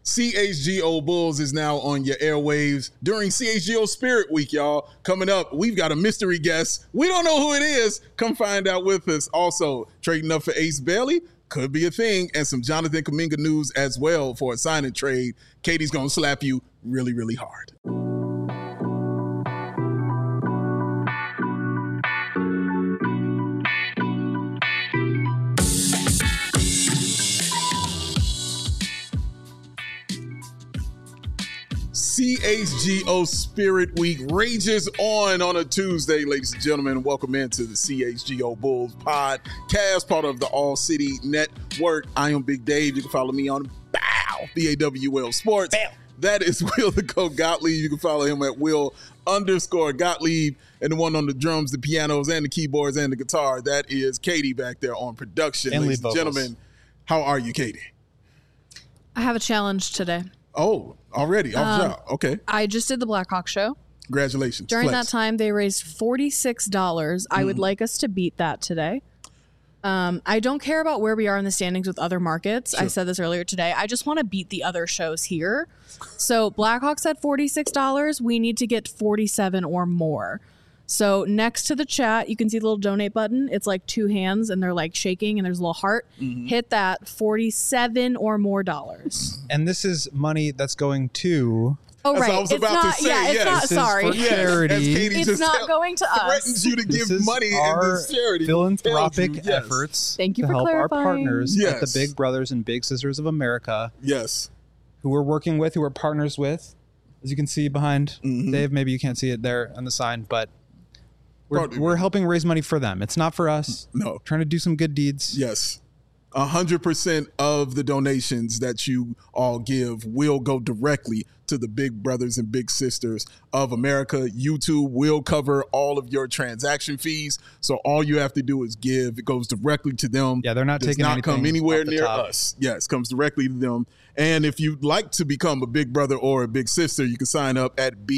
CHGO Bulls is now on your airwaves during CHGO Spirit Week, y'all. Coming up, we've got a mystery guest. We don't know who it is. Come find out with us. Also, trading up for Ace Bailey could be a thing, and some Jonathan Kuminga news as well for a sign and trade. Katie's going to slap you really, really hard. CHGO Spirit Week rages on a Tuesday, ladies and gentlemen. Welcome into the CHGO Bulls podcast, part of the All City Network. I am Big Dave. You can follow me on BAWL Sports. Bam. That is Will the Goat Gottlieb. You can follow him at Will_Gottlieb. And the one on the drums, the pianos, and the keyboards, and the guitar, that is Katie back there on production. And ladies and gentlemen, how are you, Katie? I have a challenge today. Oh, already? Okay. I just did the Blackhawk show. Congratulations. During that time, they raised $46. I would like us to beat that today. I don't care about where we are in the standings with other markets. Sure. I said this earlier today. I just want to beat the other shows here. So Blackhawks at $46. We need to get 47 or more. So next to the chat, you can see the little donate button. It's like two hands and they're like shaking and there's a little heart. Mm-hmm. Hit that 47 or more dollars. And this is money that's going to... Oh, right. I was about to say, it's not, sorry. Charity. It's not going to us. Threatens you to give money in this charity. Philanthropic efforts Thank you to for help clarifying. our partners at the Big Brothers and Big Sisters of America. Yes. Who we're working with, who we're partners with. As you can see behind Dave, maybe you can't see it there on the sign, but we're helping raise money for them. It's not for us. No. Trying to do some good deeds. Yes. 100% of the donations that you all give will go directly to the Big Brothers and Big Sisters of America. YouTube will cover all of your transaction fees. So all you have to do is give. It goes directly to them. Yeah, they're not taking anything. Does not come anywhere near top. us. Yes, comes directly to them. And if you'd like to become a big brother or a big sister, you can sign up at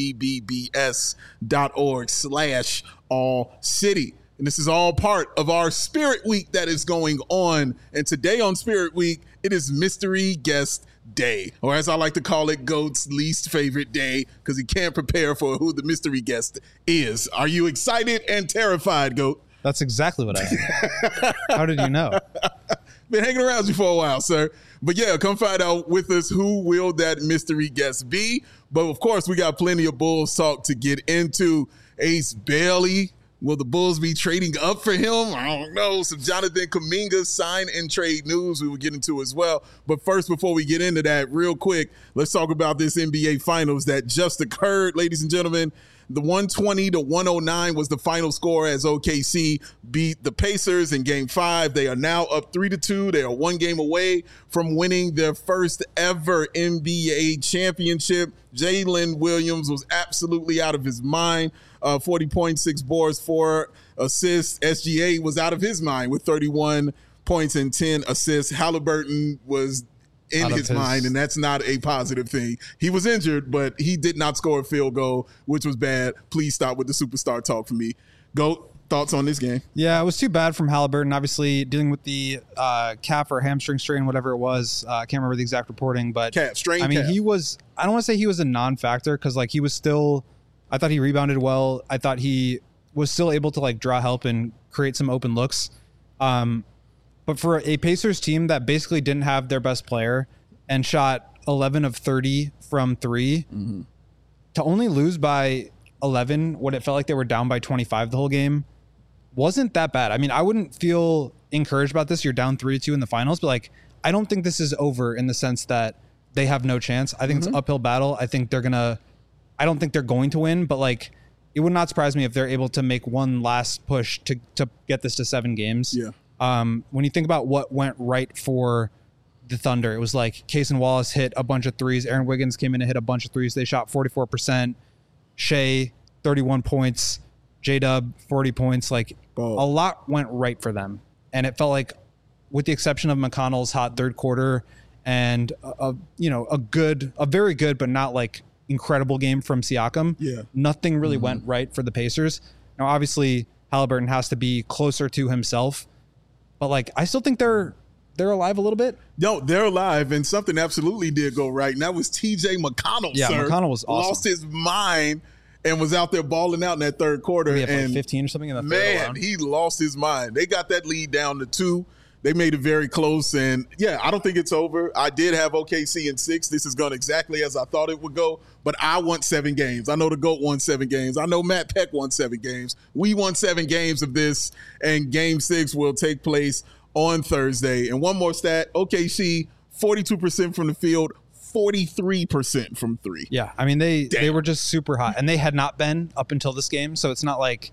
bbbs.org/allcity. And this is all part of our Spirit Week that is going on. And today on Spirit Week, it is Mystery Guest Day, or as I like to call it, Goat's least favorite day, because he can't prepare for who the mystery guest is. Are you excited and terrified, Goat? That's exactly what I am. How did you know? Been hanging around you for a while, sir. But yeah, come find out with us who will that mystery guest be. But of course, we got plenty of Bulls talk to get into. Ace Bailey. Will the Bulls be trading up for him? I don't know. Some Jonathan Kuminga sign and trade news we will get into as well. But first, before we get into that, real quick, let's talk about this NBA Finals that just occurred, ladies and gentlemen. The 120-109 was the final score as OKC beat the Pacers in Game 5. They are now up 3-2. They are one game away from winning their first ever NBA championship. Jalen Williams was absolutely out of his mind. 40.6 boards, 4 assists. SGA was out of his mind with 31 points and 10 assists. Halliburton was in his mind, and that's not a positive thing. He was injured, but he did not score a field goal, which was bad. Please stop with the superstar talk for me. Goat, thoughts on this game? Yeah, it was too bad from Halliburton. Obviously, dealing with the calf or hamstring strain, whatever it was. I can't remember the exact reporting, but calf strain. I mean, calf. he was. I don't want to say he was a non-factor because, like, he was still. I thought he rebounded well. I thought he was still able to like draw help and create some open looks. But for a Pacers team that basically didn't have their best player and shot 11 of 30 from 3, to only lose by 11 when it felt like they were down by 25 the whole game wasn't that bad. I mean, I wouldn't feel encouraged about this. You're down 3-2 in the finals, but like, I don't think this is over in the sense that they have no chance. I think it's an uphill battle. I don't think they're going to win, but like, it would not surprise me if they're able to make one last push to get this to 7 games. Yeah. When you think about what went right for the Thunder, it was like Case and Wallace hit a bunch of threes. Aaron Wiggins came in and hit a bunch of threes. They shot 44%. Shea, 31 points. J-Dub, 40 points. Like a lot went right for them. And it felt like, with the exception of McConnell's hot third quarter and a very good, but not like incredible game from Siakam, nothing really went right for the Pacers. Now, obviously, Halliburton has to be closer to himself, but like, I still think they're they're alive a little bit. No, they're alive, and something absolutely did go right, and that was T.J. McConnell. Yeah, sir. McConnell was awesome. Lost his mind and was out there balling out in that third quarter. He had and like 15 or something in the third man, alone. he lost his mind. They got that lead down to 2. They made it very close, and yeah, I don't think it's over. I did have OKC in 6. This is going exactly as I thought it would go, but I want 7 games. I know the GOAT won 7 games. I know Matt Peck won 7 games. We won 7 games of this, and Game 6 will take place on Thursday. And one more stat, OKC, 42% from the field, 43% from 3. Yeah, I mean, they were just super hot, and they had not been up until this game, so it's not like,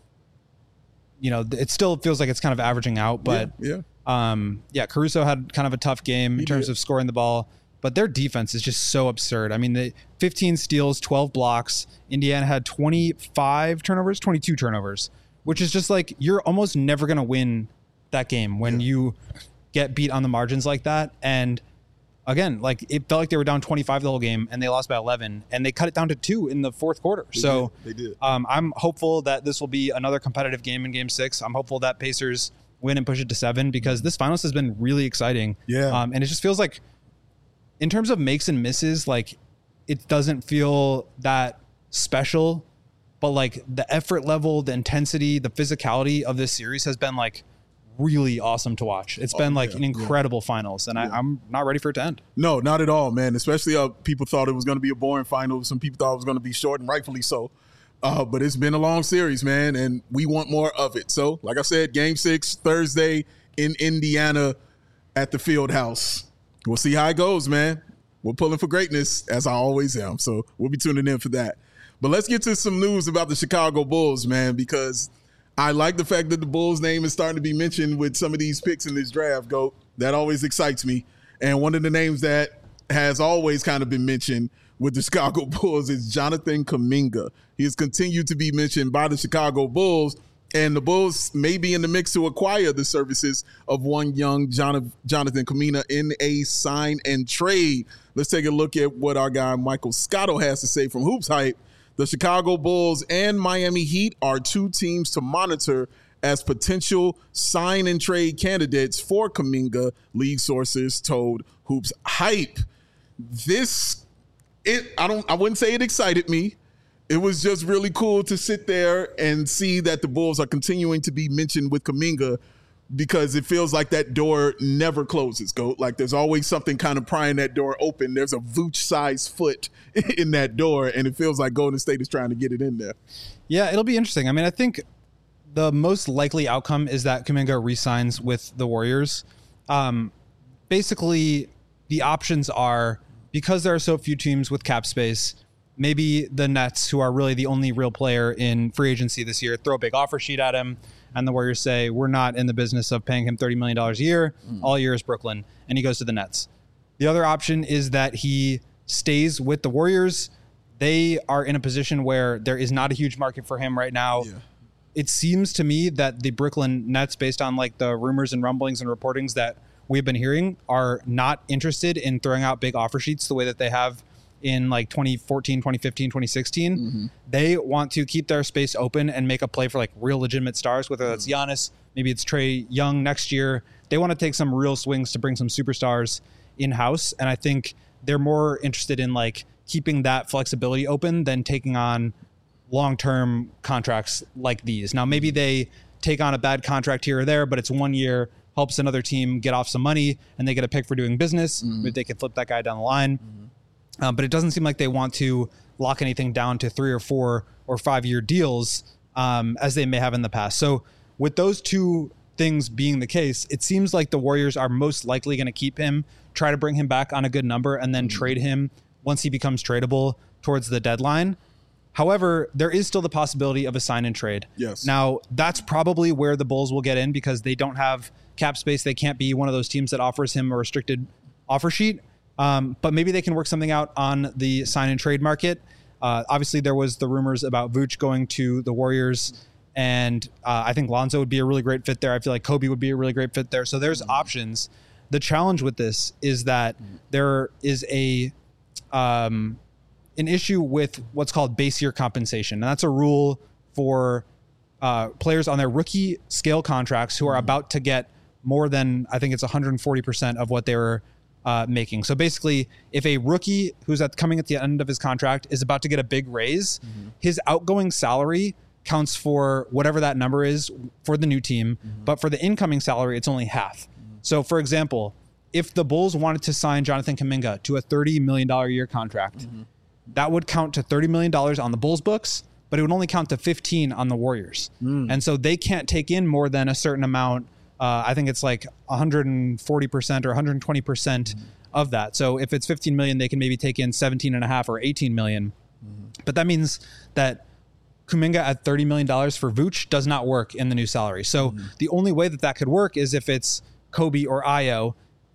it still feels like it's kind of averaging out, but Caruso had kind of a tough game in terms of scoring the ball, but their defense is just so absurd. I mean, they 15 steals, 12 blocks. Indiana had 22 turnovers, which is just like, you're almost never going to win that game when you get beat on the margins like that. And again, like, it felt like they were down 25 the whole game and they lost by 11, and they cut it down to 2 in the fourth quarter. They did. I'm hopeful that this will be another competitive game in Game 6. I'm hopeful that Pacers win and push it to 7, because this finals has been really exciting. Yeah. And it just feels like, in terms of makes and misses, like, it doesn't feel that special, but like the effort level, the intensity, the physicality of this series has been like really awesome to watch. It's been like an incredible finals, and I'm not ready for it to end. No, not at all, man. Especially people thought it was going to be a boring final. Some people thought it was going to be short, and rightfully so. But it's been a long series, man, and we want more of it. So, like I said, Game 6 Thursday in Indiana at the Field House. We'll see how it goes, man. We're pulling for greatness, as I always am. So we'll be tuning in for that. But let's get to some news about the Chicago Bulls, man, because I like the fact that the Bulls' name is starting to be mentioned with some of these picks in this draft, GOAT. That always excites me. And one of the names that has always kind of been mentioned with the Chicago Bulls is Jonathan Kuminga. He has continued to be mentioned by the Chicago Bulls, and the Bulls may be in the mix to acquire the services of one young Jonathan Kuminga in a sign and trade. Let's take a look at what our guy Michael Scotto has to say from Hoops Hype. The Chicago Bulls and Miami Heat are 2 teams to monitor as potential sign and trade candidates for Kuminga, league sources told Hoops Hype. I wouldn't say it excited me. It was just really cool to sit there and see that the Bulls are continuing to be mentioned with Kuminga, because it feels like that door never closes, GOAT. Like, there's always something kind of prying that door open. There's a Vooch-sized foot in that door, and it feels like Golden State is trying to get it in there. Yeah, it'll be interesting. I mean, I think the most likely outcome is that Kuminga re-signs with the Warriors. Basically, the options are, because there are so few teams with cap space, maybe the Nets, who are really the only real player in free agency this year, throw a big offer sheet at him, and the Warriors say, we're not in the business of paying him $30 million a year. All year is Brooklyn, and he goes to the Nets. The other option is that he stays with the Warriors. They are in a position where there is not a huge market for him right now. Yeah. It seems to me that the Brooklyn Nets, based on like the rumors and rumblings and reportings that we've been hearing, are not interested in throwing out big offer sheets the way that they have in like 2014, 2015, 2016. Mm-hmm. They want to keep their space open and make a play for like real legitimate stars, whether that's Giannis, maybe it's Trae Young next year. They want to take some real swings to bring some superstars in-house. And I think they're more interested in like keeping that flexibility open than taking on long-term contracts like these. Now, maybe they take on a bad contract here or there, but it's 1 year, helps another team get off some money, and they get a pick for doing business. Mm-hmm. Maybe they can flip that guy down the line. Mm-hmm. But it doesn't seem like they want to lock anything down to 3 or 4 or 5 year deals as they may have in the past. So with those two things being the case, it seems like the Warriors are most likely going to keep him, try to bring him back on a good number, and then trade him once he becomes tradable towards the deadline. However, there is still the possibility of a sign and trade. Yes. Now, that's probably where the Bulls will get in, because they don't have cap space. They can't be one of those teams that offers him a restricted offer sheet. But maybe they can work something out on the sign and trade market. Obviously, there was the rumors about Vooch going to the Warriors, and I think Lonzo would be a really great fit there. I feel like Kobe would be a really great fit there. So there's options. The challenge with this is that there is an issue with what's called base year compensation, and that's a rule for players on their rookie scale contracts who are about to get more than, I think it's 140% of what they were making. So basically, if a rookie who's coming at the end of his contract is about to get a big raise, his outgoing salary counts for whatever that number is for the new team. But for the incoming salary, it's only half. So for example, if the Bulls wanted to sign Jonathan Kuminga to a $30 million a year contract, that would count to $30 million on the Bulls books, but it would only count to 15 on the Warriors. And so they can't take in more than a certain amount. I think it's like 140% or 120% of that. So if it's 15 million, they can maybe take in 17 and a half or 18 million. But that means that Kuminga at $30 million for Vooch does not work in the new salary. So the only way that could work is if it's Kobe or Ayo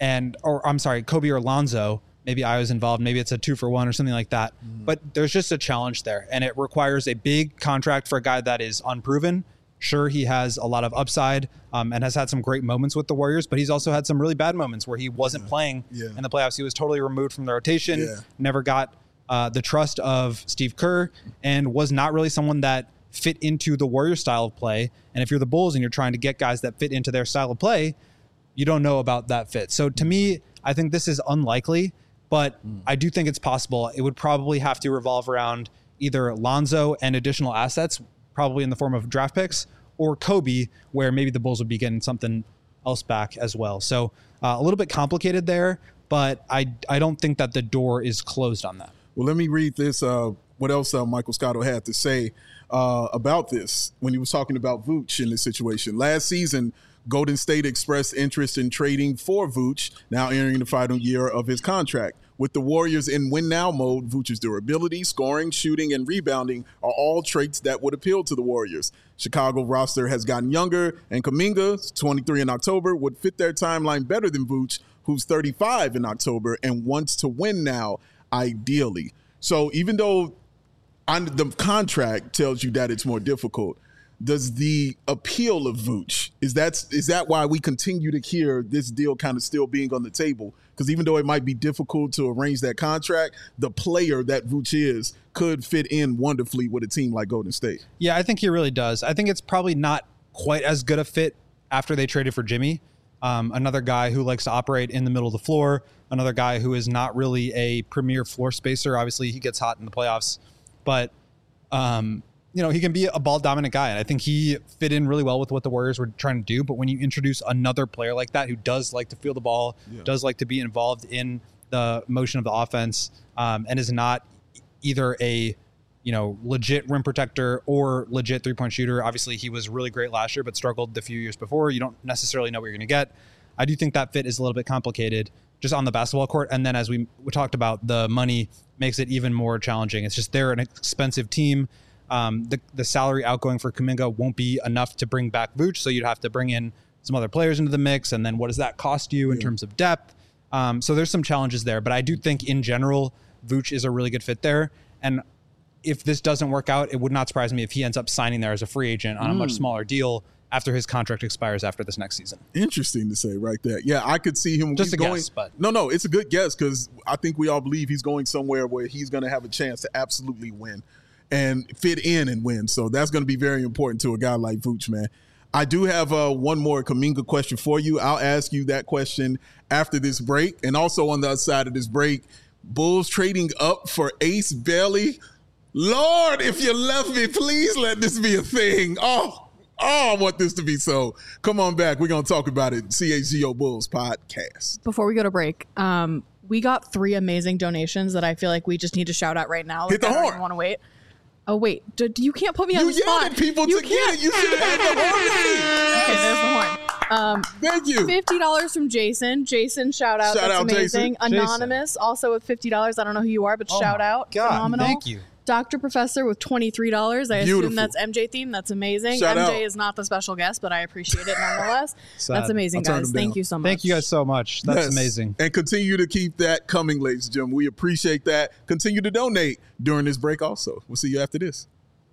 Kobe or Lonzo. Maybe Ayo's involved. Maybe it's a 2-for-1 or something like that. But there's just a challenge there. And it requires a big contract for a guy that is unproven. Sure, he has a lot of upside and has had some great moments with the Warriors, but he's also had some really bad moments where he wasn't playing in the playoffs. He was totally removed from the rotation, never got the trust of Steve Kerr, and was not really someone that fit into the Warriors style of play. And if you're the Bulls and you're trying to get guys that fit into their style of play, you don't know about that fit. So to me, I think this is unlikely, but I do think it's possible. It would probably have to revolve around either Lonzo and additional assets, probably in the form of draft picks, or Kobe, where maybe the Bulls would be getting something else back as well. So a little bit complicated there, but I don't think that the door is closed on that. Well, let me read this. What else Michael Scotto had to say about this when he was talking about Vooch in this situation. Last season, Golden State expressed interest in trading for Vooch, now entering the final year of his contract. With the Warriors in win-now mode, Vooch's durability, scoring, shooting, and rebounding are all traits that would appeal to the Warriors. Chicago roster has gotten younger, and Kuminga, 23 in October, would fit their timeline better than Vooch, who's 35 in October and wants to win now, ideally. So even though the contract tells you that it's more difficult, does the appeal of Vooch, is that why we continue to hear this deal kind of still being on the table? Because even though it might be difficult to arrange that contract, the player that Vooch is could fit in wonderfully with a team like Golden State. Yeah, I think he really does. I think it's probably not quite as good a fit after they traded for Jimmy. Another guy who likes to operate in the middle of the floor, another guy who is not really a premier floor spacer. Obviously, he gets hot in the playoffs, but he can be a ball dominant guy. And I think he fit in really well with what the Warriors were trying to do. But when you introduce another player like that, who does like to feel the ball, does like to be involved in the motion of the offense, and is not either a, legit rim protector or legit 3-point shooter. Obviously he was really great last year, but struggled the few years before. You don't necessarily know what you're going to get. I do think that fit is a little bit complicated just on the basketball court. And then as we talked about, the money makes it even more challenging. It's just, they're an expensive team. The salary outgoing for Kuminga won't be enough to bring back Vooch, so you'd have to bring in some other players into the mix, and then what does that cost you in terms of depth? So there's some challenges there, but I do think in general Vooch is a really good fit there. And if this doesn't work out, it would not surprise me if he ends up signing there as a free agent on a much smaller deal after his contract expires after this next season. Interesting to say right there. Yeah, I could see him just going. Guess, but no, it's a good guess, because I think we all believe he's going somewhere where he's going to have a chance to absolutely win and fit in and win. So that's going to be very important to a guy like Vooch, man. I do have one more Kuminga question for you. I'll ask you that question after this break. And also on the other side of this break, Bulls trading up for Ace Bailey. Lord, if you love me, please let this be a thing. Oh, I want this to be so. Come on back. We're going to talk about it. CHGO Bulls podcast. Before we go to break, we got 3 amazing donations that I feel like we just need to shout out right now. Hit the horn. I don't want to wait. Oh, wait. You can't put me on the You spot. yelled at people to get it. You should have the horn ready. Okay, there's the horn. Thank you. $50 from Jason. Jason, shout out. That's amazing. Jason. Anonymous, also with $50. I don't know who you are, but shout out. God, phenomenal. thank you. Dr. Professor with $23. I Beautiful. assume that's MJ theme. That's amazing. Shout MJ out. is not the special guest, but I appreciate it nonetheless. That's amazing, I'll turn guys. them Thank down. you so much. Thank you guys so much. That's Yes. amazing. And continue to keep that coming, ladies and gentlemen. We appreciate that. Continue to donate during this break also. We'll see you after this.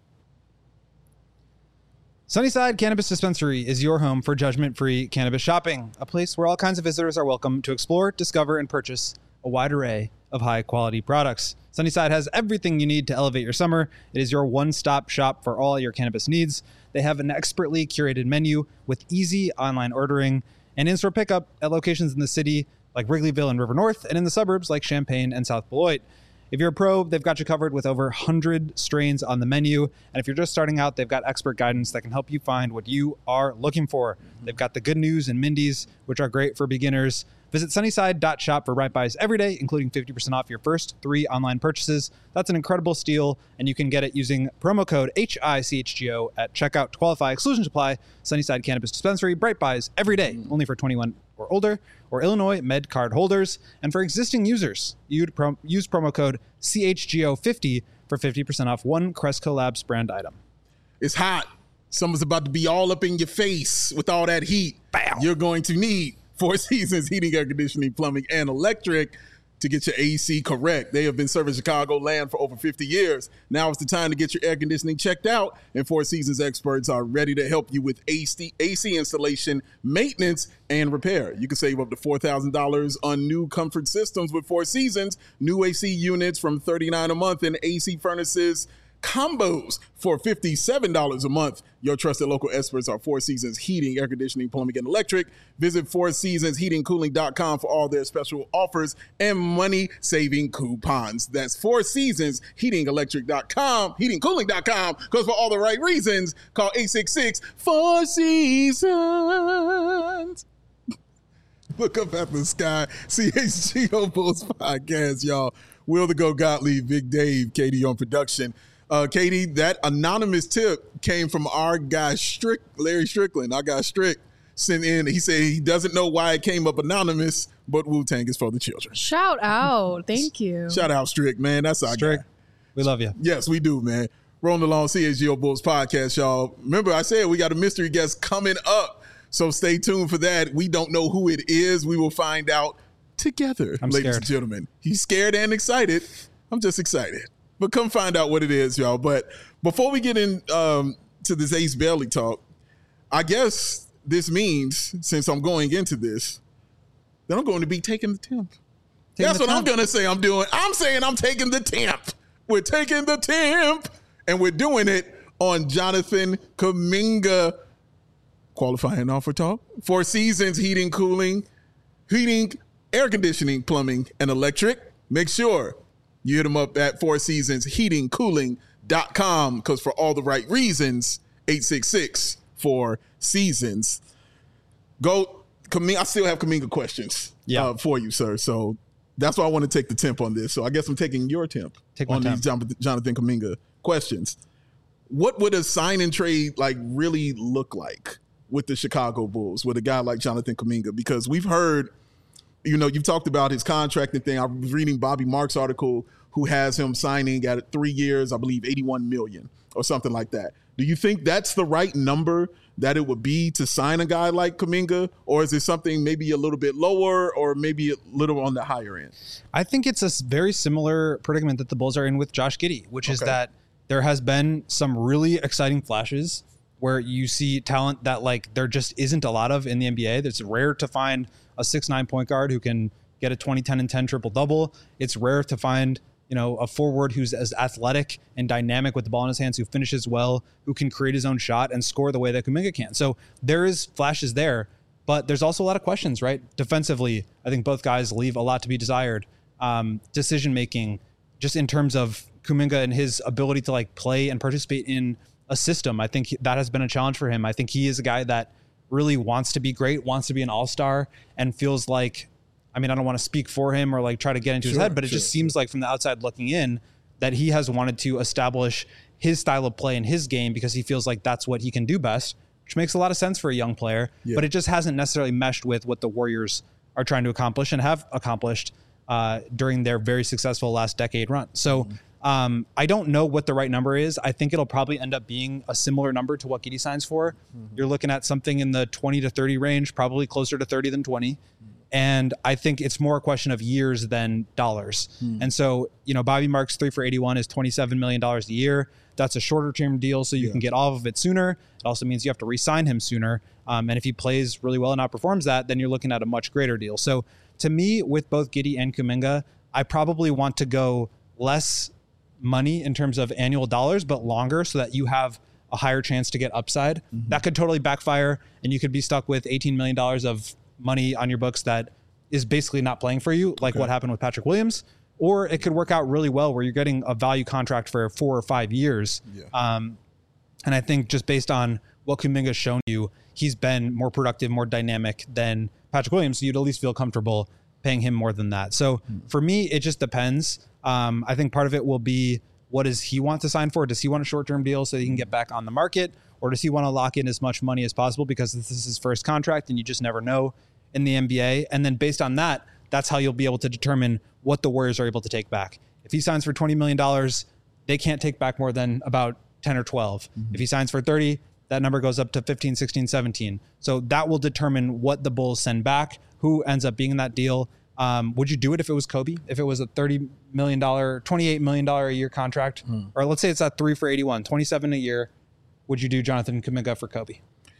Sunnyside Cannabis Dispensary is your home for judgment-free cannabis shopping, a place where all kinds of visitors are welcome to explore, discover, and purchase a wide array of high-quality products. Sunnyside has everything you need to elevate your summer. It is your one-stop shop for all your cannabis needs. They have an expertly curated menu with easy online ordering and in-store pickup at locations in the city like Wrigleyville and River North, and in the suburbs like Champaign and South Beloit. If you're a pro, they've got you covered with over 100 strains on the menu. And if you're just starting out, they've got expert guidance that can help you find what you are looking for. They've got the Good News and Mindy's, which are great for beginners. Visit sunnyside.shop for Right Buys every day, including 50% off your first 3 online purchases. That's an incredible steal, and you can get it using promo code HICHGO at checkout to qualify. Exclusions apply. Sunnyside Cannabis Dispensary, Bright Buys every day, only for 21 or older, or Illinois Med card holders. And for existing users, you'd use promo code CHGO50 for 50% off one Cresco Labs brand item. It's hot. Summer's about to be all up in your face with all that heat. Bow. You're going to need Four Seasons Heating, Air Conditioning, Plumbing, and Electric to get your AC correct. They have been serving Chicagoland for over 50 years. Now is the time to get your air conditioning checked out, and Four Seasons experts are ready to help you with AC installation, maintenance, and repair. You can save up to $4,000 on new comfort systems with Four Seasons, new AC units from $39 a month, and AC furnaces combos for $57 a month. Your trusted local experts are Four Seasons Heating, Air Conditioning, Plumbing, and Electric. Visit fourseasonsheatingcooling.com for all their special offers and money-saving coupons. That's Four Seasons Heating-Electric.com, heatingcooling.com, because for all the right reasons, call 866-4-SEASONS. Look up at the sky. CHGO Bulls podcast, y'all. Will the Go Gottlieb, Big Dave, Katie on production. Katie, that anonymous tip came from our guy, Larry Strickland. Our guy, Strick, sent in. He said he doesn't know why it came up anonymous, but Wu-Tang is for the children. Shout out. Thank you. Shout out, Strick, man. That's our Strick, guy. we love you. Yes, we do, man. Rolling along CHGO Bulls podcast, y'all. Remember, I said we got a mystery guest coming up, so stay tuned for that. We don't know who it is. We will find out together, ladies and gentlemen. He's scared and excited. I'm just excited. But come find out what it is, y'all. But before we get in to this Ace Bailey talk, I guess this means, since I'm going into this, that I'm going to be taking the temp. That's what I'm going to say I'm doing. I'm saying I'm taking the temp. We're taking the temp. And we're doing it on Jonathan Kuminga. Qualifying offer talk. Four Seasons Heating, Air Conditioning, Plumbing, and Electric. Make sure you hit them up at fourseasonsheatingcooling.com, because for all the right reasons, 866-4-SEASONS. Go, Kuminga. I still have Kuminga questions for you, sir. So that's why I want to take the temp on this. So I guess I'm taking your temp on these Jonathan Kuminga questions. What would a sign and trade really look like with the Chicago Bulls with a guy like Jonathan Kuminga? Because we've heard, you've talked about his contracting thing. I was reading Bobby Marks' article, who has him signing at 3 years, I believe $81 million or something like that. Do you think that's the right number that it would be to sign a guy like Kuminga? Or is it something maybe a little bit lower or maybe a little on the higher end? I think it's a very similar predicament that the Bulls are in with Josh Giddey, which is that there has been some really exciting flashes where you see talent that there just isn't a lot of in the NBA. It's rare to find a 6'9" point guard who can get a 20, 10, and 10 triple-double. It's rare to find a forward who's as athletic and dynamic with the ball in his hands, who finishes well, who can create his own shot and score the way that Kuminga can. So there is flashes there, but there's also a lot of questions, right? Defensively, I think both guys leave a lot to be desired. Decision-making, just in terms of Kuminga and his ability to play and participate in a system, I think that has been a challenge for him. I think he is a guy that really wants to be great, wants to be an all-star, and feels like, I don't want to speak for him or try to get into his head, but it just seems like from the outside looking in that he has wanted to establish his style of play in his game because he feels like that's what he can do best, which makes a lot of sense for a young player, but it just hasn't necessarily meshed with what the Warriors are trying to accomplish and have accomplished during their very successful last decade run. So I don't know what the right number is. I think it'll probably end up being a similar number to what Giddey signs for. You're looking at something in the 20 to 30 range, probably closer to 30 than 20. And I think it's more a question of years than dollars. And so, Bobby Marks 3 for 81 is $27 million a year. That's a shorter term deal, so you can get off of it sooner. It also means you have to re-sign him sooner. And if he plays really well and outperforms that, then you're looking at a much greater deal. So to me, with both Giddey and Kuminga, I probably want to go less money in terms of annual dollars, but longer, so that you have a higher chance to get upside. That could totally backfire, and you could be stuck with $18 million of money on your books that is basically not playing for you, like what happened with Patrick Williams, or it could work out really well where you're getting a value contract for 4 or 5 years. Yeah. And I think just based on what Kuminga's shown you, he's been more productive, more dynamic than Patrick Williams. So you'd at least feel comfortable paying him more than that. So for me, it just depends. I think part of it will be, what does he want to sign for? Does he want a short-term deal so he can get back on the market? Or does he want to lock in as much money as possible because this is his first contract and you just never know in the NBA? And then based on that, that's how you'll be able to determine what the Warriors are able to take back. If he signs for $20 million, they can't take back more than about 10 or 12. If he signs for 30, that number goes up to 15, 16, 17. So that will determine what the Bulls send back, who ends up being in that deal. Would you do it if it was Kobe? If it was a $30 million, $28 million a year contract, or let's say it's at 3 for 81, 27 a year, would you do Jonathan Kuminga for Kobe?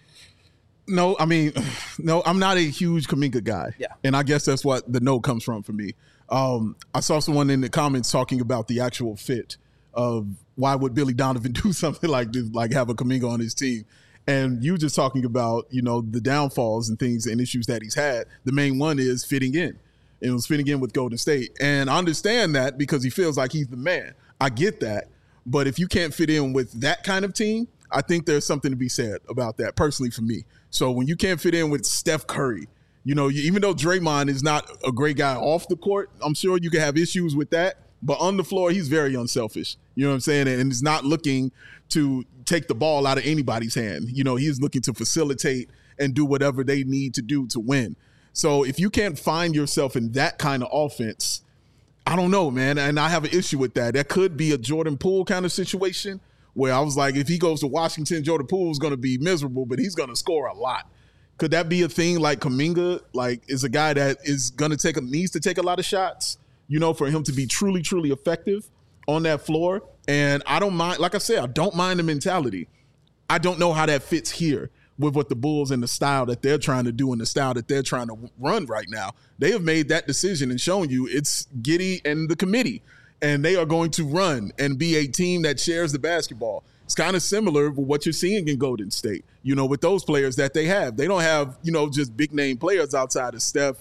No, I mean, no, I'm not a huge Kuminga guy. Yeah. And I guess that's what the no comes from for me. I saw someone in the comments talking about the actual fit of why would Billy Donovan do something like this, like have a Kuminga on his team. And you just talking about, the downfalls and things and issues that he's had. The main one is fitting in. And it was fitting in with Golden State. And I understand that because he feels like he's the man. I get that. But if you can't fit in with that kind of team, I think there's something to be said about that personally for me. So when you can't fit in with Steph Curry, even though Draymond is not a great guy off the court, I'm sure you can have issues with that. But on the floor, he's very unselfish. You know what I'm saying? And he's not looking to take the ball out of anybody's hand. He's looking to facilitate and do whatever they need to do to win. So if you can't find yourself in that kind of offense, I don't know, man. And I have an issue with that. That could be a Jordan Poole kind of situation where I was like, if he goes to Washington, Jordan Poole is going to be miserable, but he's going to score a lot. Could that be a thing like Kuminga, is a guy that is going to needs to take a lot of shots, for him to be truly, truly effective on that floor? And I don't mind, like I said, I don't mind the mentality. I don't know how that fits here with what the Bulls and the style that they're trying to do and the style that they're trying to run right now. They have made that decision and shown you it's Giddey and the committee, and they are going to run and be a team that shares the basketball. It's kind of similar with what you're seeing in Golden State, with those players that they have. They don't have, just big name players outside of Steph,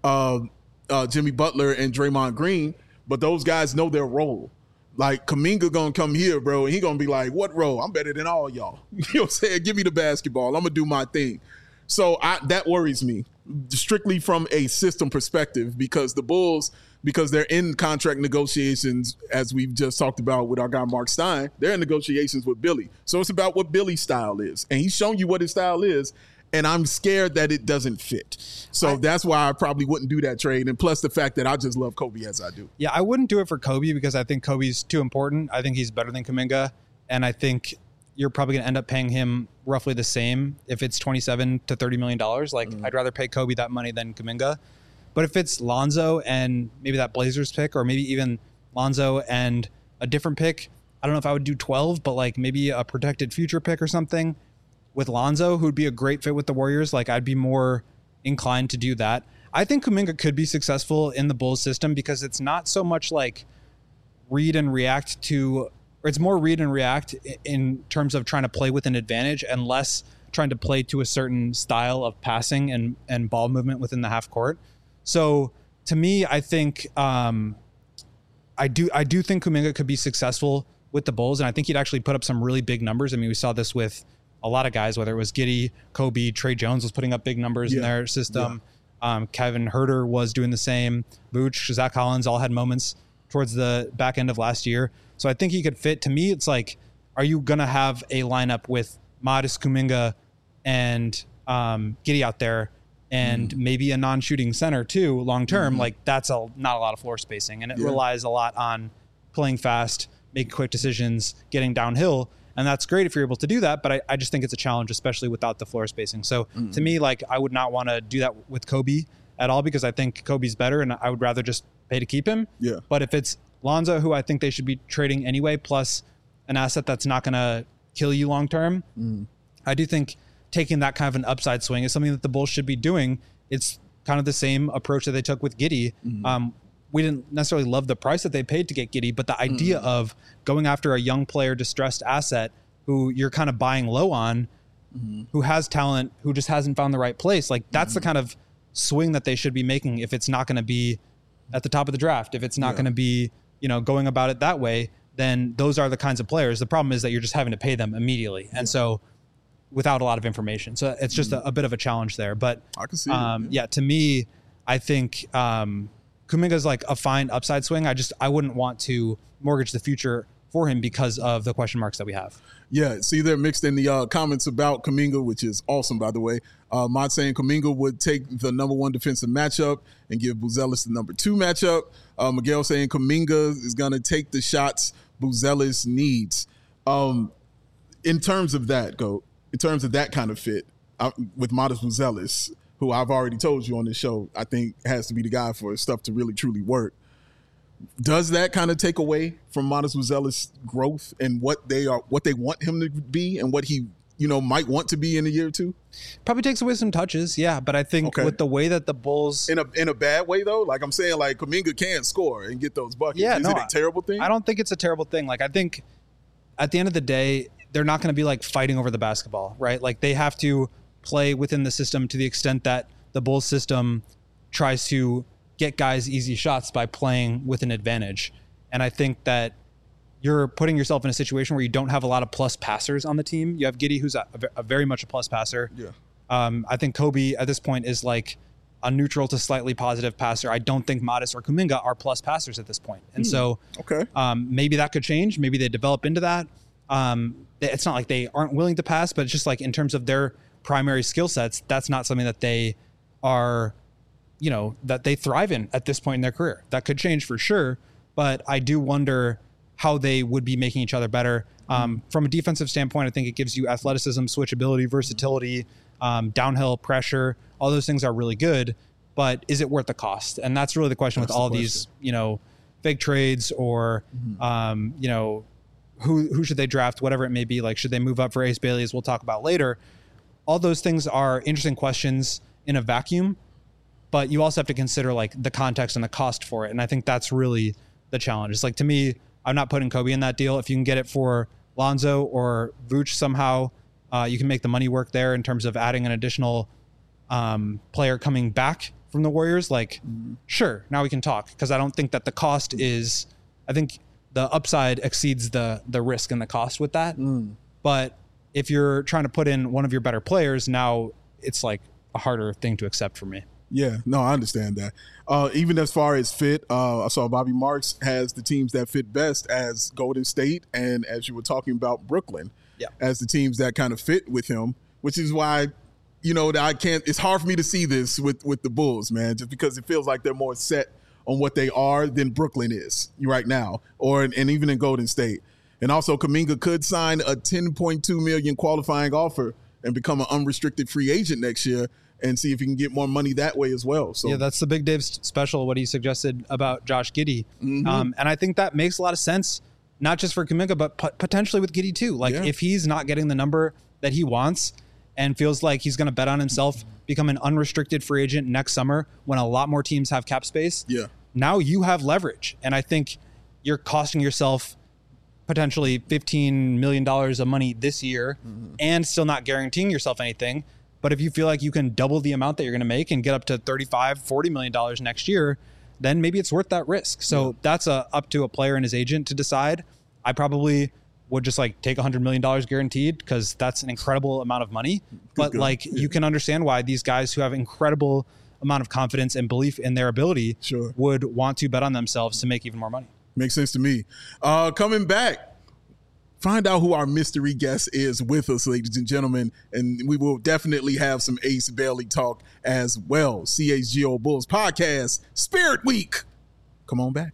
Jimmy Butler and Draymond Green, but those guys know their role. Like Kuminga gonna come here, bro, and he gonna be like, what role? I'm better than all y'all. You know what I'm saying? Give me the basketball. I'm gonna do my thing. So that worries me, strictly from a system perspective, because the Bulls, because they're in contract negotiations, as we've just talked about with our guy Mark Stein, they're in negotiations with Billy. So it's about what Billy's style is. And he's shown you what his style is, and I'm scared that it doesn't fit. So that's why I probably wouldn't do that trade. And plus the fact that I just love Kobe as I do. Yeah, I wouldn't do it for Kobe because I think Kobe's too important. I think he's better than Kuminga. And I think you're probably going to end up paying him roughly the same if it's $27 to $30 million. I'd rather pay Kobe that money than Kuminga. But if it's Lonzo and maybe that Blazers pick, or maybe even Lonzo and a different pick, I don't know if I would do 12, but maybe a protected future pick or something with Lonzo, who'd be a great fit with the Warriors. I'd be more inclined to do that. I think Kuminga could be successful in the Bulls system because it's not so much read and react to, or it's more read and react in terms of trying to play with an advantage and less trying to play to a certain style of passing and ball movement within the half court. So to me, I think I do think Kuminga could be successful with the Bulls, and I think he'd actually put up some really big numbers. I mean, we saw this with a lot of guys, whether it was Giddey, Kobe, Trey Jones was putting up big numbers in their system. Yeah. Kevin Huerter was doing the same. Vooch, Zach Collins all had moments towards the back end of last year. So I think he could fit. To me, it's are you going to have a lineup with Modest, Kuminga, and Giddey out there, and maybe a non-shooting center too, long-term? That's not a lot of floor spacing. And it relies a lot on playing fast, making quick decisions, getting downhill. And that's great if you're able to do that, but I just think it's a challenge, especially without the floor spacing. So to me, I would not want to do that with Kobe at all because I think Kobe's better and I would rather just pay to keep him. Yeah. But if it's Lonzo, who I think they should be trading anyway, plus an asset that's not going to kill you long-term, I do think taking that kind of an upside swing is something that the Bulls should be doing. It's kind of the same approach that they took with Giddey. We didn't necessarily love the price that they paid to get Giddey, but the idea of going after a young player, distressed asset who you're kind of buying low on, who has talent, who just hasn't found the right place, that's the kind of swing that they should be making if it's not going to be at the top of the draft, if it's not going to be, going about it that way, then those are the kinds of players. The problem is that you're just having to pay them immediately. And so without a lot of information. So it's just a bit of a challenge there. But I can see it, to me, I think Kuminga's like a fine upside swing. I wouldn't want to mortgage the future for him because of the question marks that we have. Yeah, see, they're mixed in the comments about Kuminga, which is awesome, by the way. Mott saying Kuminga would take the number 1 defensive matchup and give Buzelis the number 2 matchup. Miguel saying Kuminga is going to take the shots Buzelis needs. In terms of that, in terms of that kind of fit with Modest Buzelis, who I've already told you on this show, I think has to be the guy for stuff to really, truly work. Does that kind of take away from Modest Buzelis' growth and what they want him to be and what he, might want to be in a year or two? Probably takes away some touches, yeah. But I think with the way that the Bulls, in a bad way though, like I'm saying, like Kuminga can score and get those buckets. Yeah, is it a terrible thing? I don't think it's a terrible thing. Like I think at the end of the day, they're not going to be like fighting over the basketball, right? Like they have to play within the system to the extent that the Bulls system tries to get guys easy shots by playing with an advantage. And I think that you're putting yourself in a situation where you don't have a lot of plus passers on the team. You have Giddey, who's a very much a plus passer. Yeah. I think Kobe at this point is like a neutral to slightly positive passer. I don't think Modest or Kuminga are plus passers at this point. And so maybe that could change. Maybe they develop into that. It's not like they aren't willing to pass, but it's just like in terms of their primary skill sets, that's not something that they are, that they thrive in at this point in their career. That could change for sure, but I do wonder how they would be making each other better. From a defensive standpoint, I think it gives you athleticism, switchability, versatility, downhill pressure. All those things are really good, but is it worth the cost? And that's really the question with all these, fake trades or, who should they draft, whatever it may be. Like, should they move up for Ace Bailey, as we'll talk about later? All those things are interesting questions in a vacuum, but you also have to consider like the context and the cost for it. And I think that's really the challenge. It's like, to me, I'm not putting Kobe in that deal. If you can get it for Lonzo or Vooch somehow, you can make the money work there in terms of adding an additional player coming back from the Warriors. Like, sure, now we can talk, because I don't think that the cost is, I think the upside exceeds the risk and the cost with that. But if you're trying to put in one of your better players, now it's like a harder thing to accept for me. Yeah, no, I understand that. Even as far as fit, I saw Bobby Marks has the teams that fit best as Golden State and, as you were talking about, Brooklyn as the teams that kind of fit with him, which is why, it's hard for me to see this with the Bulls, man, just because it feels like they're more set on what they are than Brooklyn is right now, and even in Golden State. And also, Kuminga could sign a $10.2 million qualifying offer and become an unrestricted free agent next year and see if he can get more money that way as well. So that's the Big Dave special, what he suggested about Josh Giddey. And I think that makes a lot of sense, not just for Kuminga, but potentially with Giddey too. Like, if he's not getting the number that he wants and feels like he's going to bet on himself, become an unrestricted free agent next summer when a lot more teams have cap space, now you have leverage. And I think you're costing yourself potentially $15 million of money this year and still not guaranteeing yourself anything. But if you feel like you can double the amount that you're going to make and get up to $35-40 million next year, then maybe it's worth that risk. So that's up to a player and his agent to decide. I probably would just like take $100 million guaranteed, because that's an incredible amount of money. But you can understand why these guys who have incredible amount of confidence and belief in their ability would want to bet on themselves to make even more money. Makes sense to me. Coming back, find out who our mystery guest is with us, ladies and gentlemen, and we will definitely have some Ace Bailey talk as well. CHGO Bulls Podcast, Spirit Week. Come on back.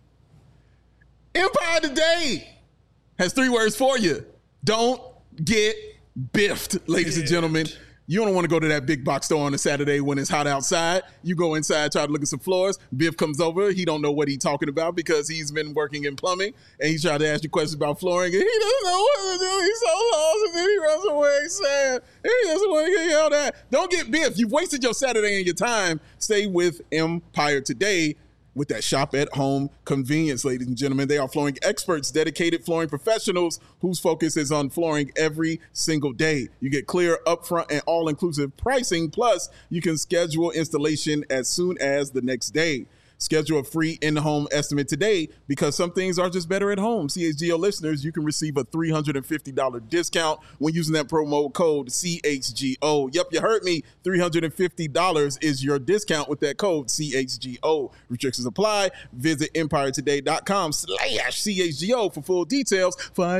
Empire Today has 3 words for you. Don't get biffed, ladies and gentlemen. You don't want to go to that big box store on a Saturday when it's hot outside. You go inside, try to look at some floors. Biff comes over. He don't know what he's talking about because he's been working in plumbing, and he's trying to ask you questions about flooring, and he doesn't know what to do. He's so lost, and then he runs away sad. He doesn't want to get yelled at. Don't get biffed. You've wasted your Saturday and your time. Stay with Empire Today. with that shop at home convenience, ladies and gentlemen. They are flooring experts, dedicated flooring professionals whose focus is on flooring every single day. You get clear, upfront, and all-inclusive pricing. Plus, you can schedule installation as soon as the next day. Schedule a free in-home estimate today because some things are just better at home. CHGO listeners, you can receive a $350 discount when using that promo code CHGO. Yep, you heard me. $350 is your discount with that code CHGO. Restrictions apply. Visit EmpireToday.com/CHGO for full details.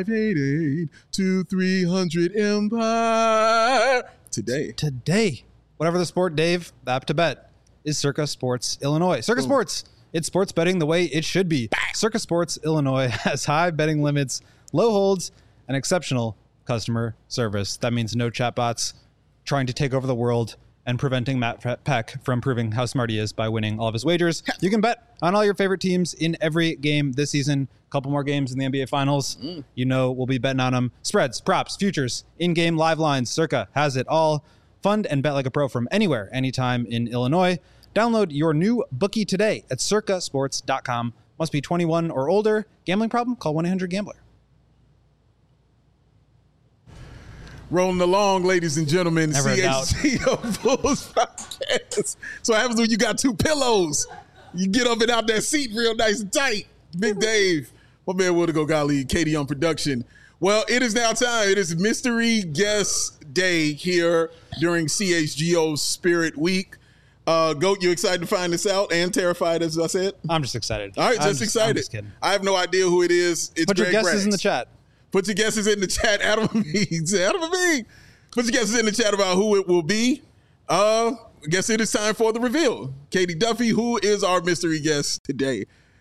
588-2300 Empire. Today. Whatever the sport, Dave, the app to bet is Circa Sports Illinois. Circa Sports, it's sports betting the way it should be. Circa Sports Illinois has high betting limits, low holds, and exceptional customer service. That means no chatbots trying to take over the world and preventing Matt Peck from proving how smart he is by winning all of his wagers. You can bet on all your favorite teams in every game this season. A couple more games in the NBA Finals. You know we'll be betting on them. Spreads, props, futures, in-game live lines. Circa has it all. Fund and bet like a pro from anywhere, anytime in Illinois. Download your new bookie today at circasports.com. Must be 21 or older. Gambling problem? Call 1-800-GAMBLER. Rolling along, ladies and gentlemen. Never a doubt. CHGO Bulls podcast. So what happens when you got two pillows? You get up and out that seat real nice and tight. Big Dave. My man Wildigo Golly, Katie on production. Well, it is now time. It is Mystery Guest Day here during CHGO's Spirit Week. Goat, you excited to find this out and terrified, as I said? I'm just excited. All right, just excited. I'm just kidding. I have no idea who it is. It's Put Greg your guesses Braggs. in the chat. Put your guesses in the chat. Adam Amin. Put your guesses in the chat about who it will be. I guess it is time for the reveal. Katie Duffy, who is our mystery guest today?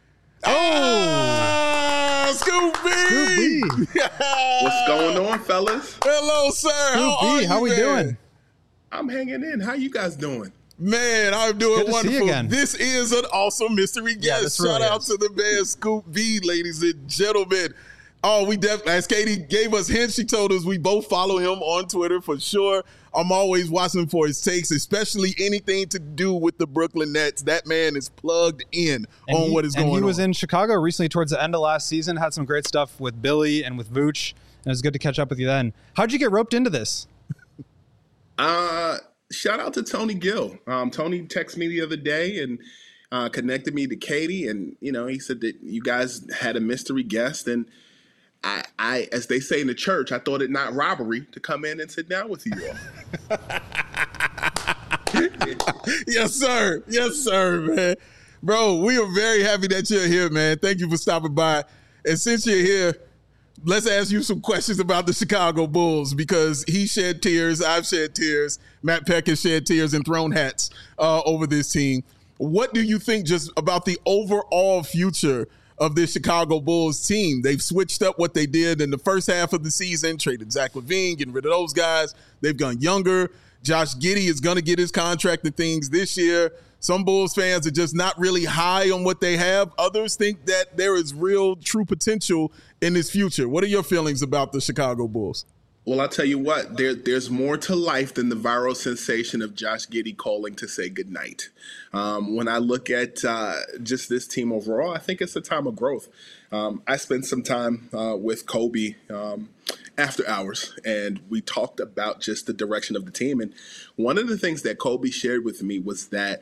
Scoop B! What's going on, fellas? Hello, sir. Scoop B, how we doing? I'm hanging in. How you guys doing? Man, I'm doing Good to see you wonderful. again. This is an awesome mystery guest. this really Shout out is. to the man Scoop B, ladies and gentlemen. Oh, we definitely, as Katie gave us hints, she told us we both follow him on Twitter for sure. I'm always watching for his takes, especially anything to do with the Brooklyn Nets. That man is plugged in on what is going on. And he was in Chicago recently towards the end of last season, had some great stuff with Billy and with Vooch, and it was good to catch up with you then. How'd you get roped into this? Shout out to Tony Gill. Tony texted me the other day and connected me to Katie, and he said that you guys had a mystery guest, and I, as they say in the church, I thought it not robbery to come in and sit down with you all. Yes, sir. Yes, sir, man. Bro, we are very happy that you're here, man. Thank you for stopping by. And since you're here, let's ask you some questions about the Chicago Bulls because he shed tears. I've shed tears. Matt Peck has shed tears and thrown hats over this team. What do you think just about the overall future of this Chicago Bulls team? They've switched up what they did in the first half of the season, traded Zach LaVine, getting rid of those guys. They've gone younger. Josh Giddey is going to get his contract and things this year. Some Bulls fans are just not really high on what they have. Others think that there is real, true potential in this future. What are your feelings about the Chicago Bulls? Well, I'll tell you what, there's more to life than the viral sensation of Josh Giddey calling to say goodnight. When I look at just this team overall, I think it's a time of growth. I spent some time with Kobe after hours, and we talked about just the direction of the team. And one of the things that Kobe shared with me was that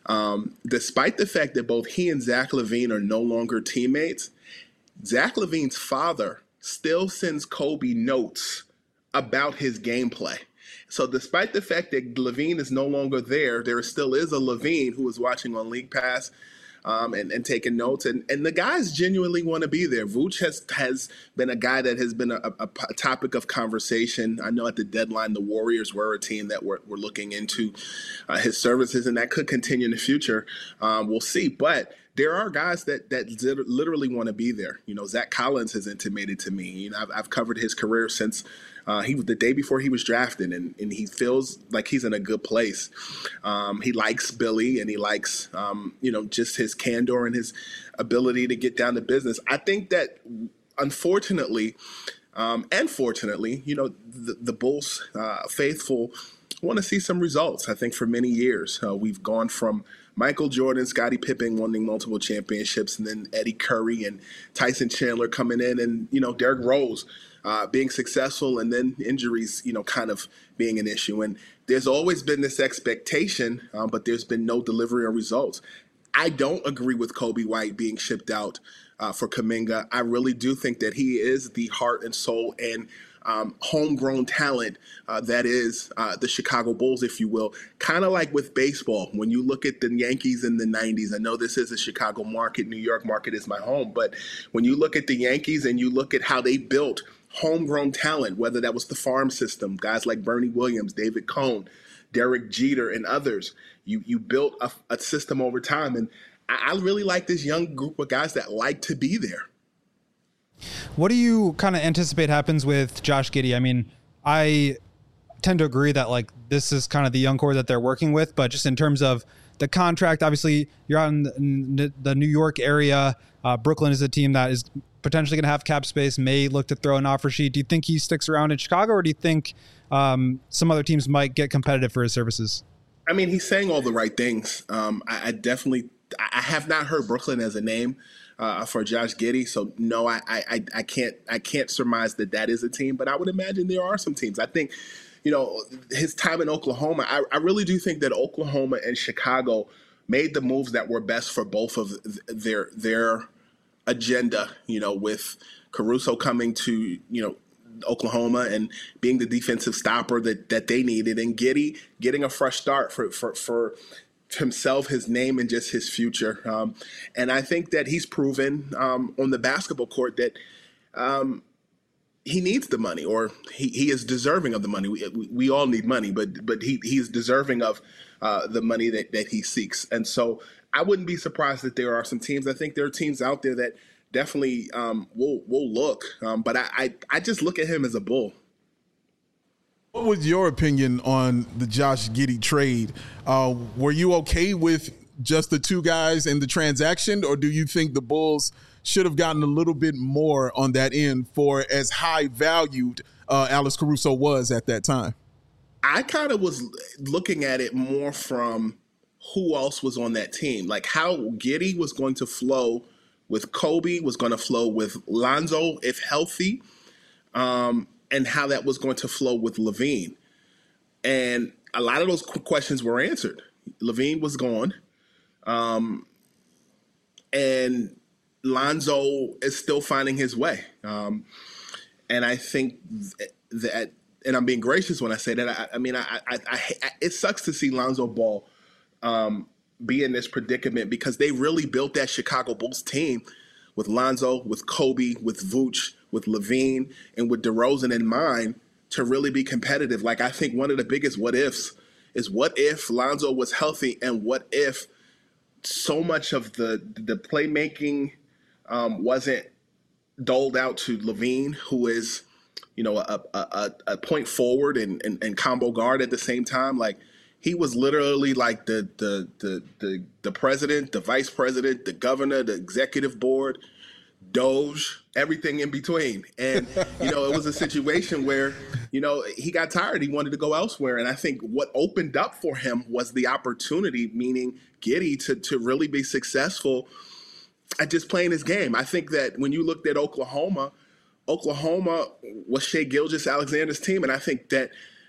despite the fact that both he and Zach LaVine are no longer teammates, Zach LaVine's father still sends Kobe notes about his gameplay. So despite the fact that LaVine is no longer there still is a LaVine who is watching on League Pass and taking notes. And the guys genuinely want to be there. Vooch has been a guy that has been a topic of conversation. I know at the deadline, the Warriors were a team that were looking into his services, and that could continue in the future. We'll see. But there are guys that literally want to be there. Zach Collins has intimated to me. I've covered his career since he was the day before he was drafted, and he feels like he's in a good place. He likes Billy, and he likes just his candor and his ability to get down to business. I think that unfortunately, and fortunately, the Bulls faithful want to see some results. I think for many years we've gone from Michael Jordan, Scottie Pippen winning multiple championships, and then Eddie Curry and Tyson Chandler coming in, and Derrick Rose being successful, and then injuries kind of being an issue. And there's always been this expectation, but there's been no delivery or results. I don't agree with Kobe White being shipped out for Kuminga. I really do think that he is the heart and soul and homegrown talent that is the Chicago Bulls, if you will. Kind of like with baseball, when you look at the Yankees in the 90s, I know this is a Chicago market, New York market is my home, but when you look at the Yankees and you look at how they built homegrown talent, whether that was the farm system, guys like Bernie Williams, David Cone, Derek Jeter, and others, you built a system over time. And I really like this young group of guys that like to be there. What do you kind of anticipate happens with Josh Giddey? I mean, I tend to agree that like this is kind of the young core that they're working with, but just in terms of the contract, obviously you're out in the New York area. Brooklyn is a team that is potentially going to have cap space, may look to throw an offer sheet. Do you think he sticks around in Chicago, or do you think some other teams might get competitive for his services? I mean, he's saying all the right things. I have not heard Brooklyn as a name for Josh Giddey, so no, I can't surmise that is a team, but I would imagine there are some teams. I think, his time in Oklahoma, I really do think that Oklahoma and Chicago made the moves that were best for both of their agenda, with Caruso coming to, Oklahoma and being the defensive stopper that they needed, and Giddey getting a fresh start for himself, his name, and just his future. And I think that he's proven on the basketball court that he needs the money, or he is deserving of the money. We all need money, but he's deserving of the money that he seeks. And so I wouldn't be surprised that there are some teams. I think there are teams out there that definitely will look. But I just look at him as a Bull. What was your opinion on the Josh Giddey trade? Were you okay with just the two guys in the transaction, or do you think the Bulls should have gotten a little bit more on that end for as high valued Alex Caruso was at that time? I kind of was looking at it more from who else was on that team, like how Giddey was going to flow with Kobe, was going to flow with Lonzo if healthy, and how that was going to flow with LaVine. And a lot of those questions were answered. LaVine was gone, and Lonzo is still finding his way. And I think that, and I'm being gracious when I say that, I mean, it sucks to see Lonzo Ball be in this predicament, because they really built that Chicago Bulls team with Lonzo, with Kobe, with Vooch, with LaVine, and with DeRozan in mind to really be competitive. Like, I think one of the biggest what ifs is, what if Lonzo was healthy, and what if so much of the playmaking wasn't doled out to LaVine, who is, a point forward and combo guard at the same time. Like, he was literally like the president, the vice president, the governor, the executive board, Doge, everything in between. And, it was a situation where, he got tired. He wanted to go elsewhere. And I think what opened up for him was the opportunity, meaning Giddey, to really be successful at just playing his game. I think that when you looked at Oklahoma was Shai Gilgeous-Alexander's team. And I think that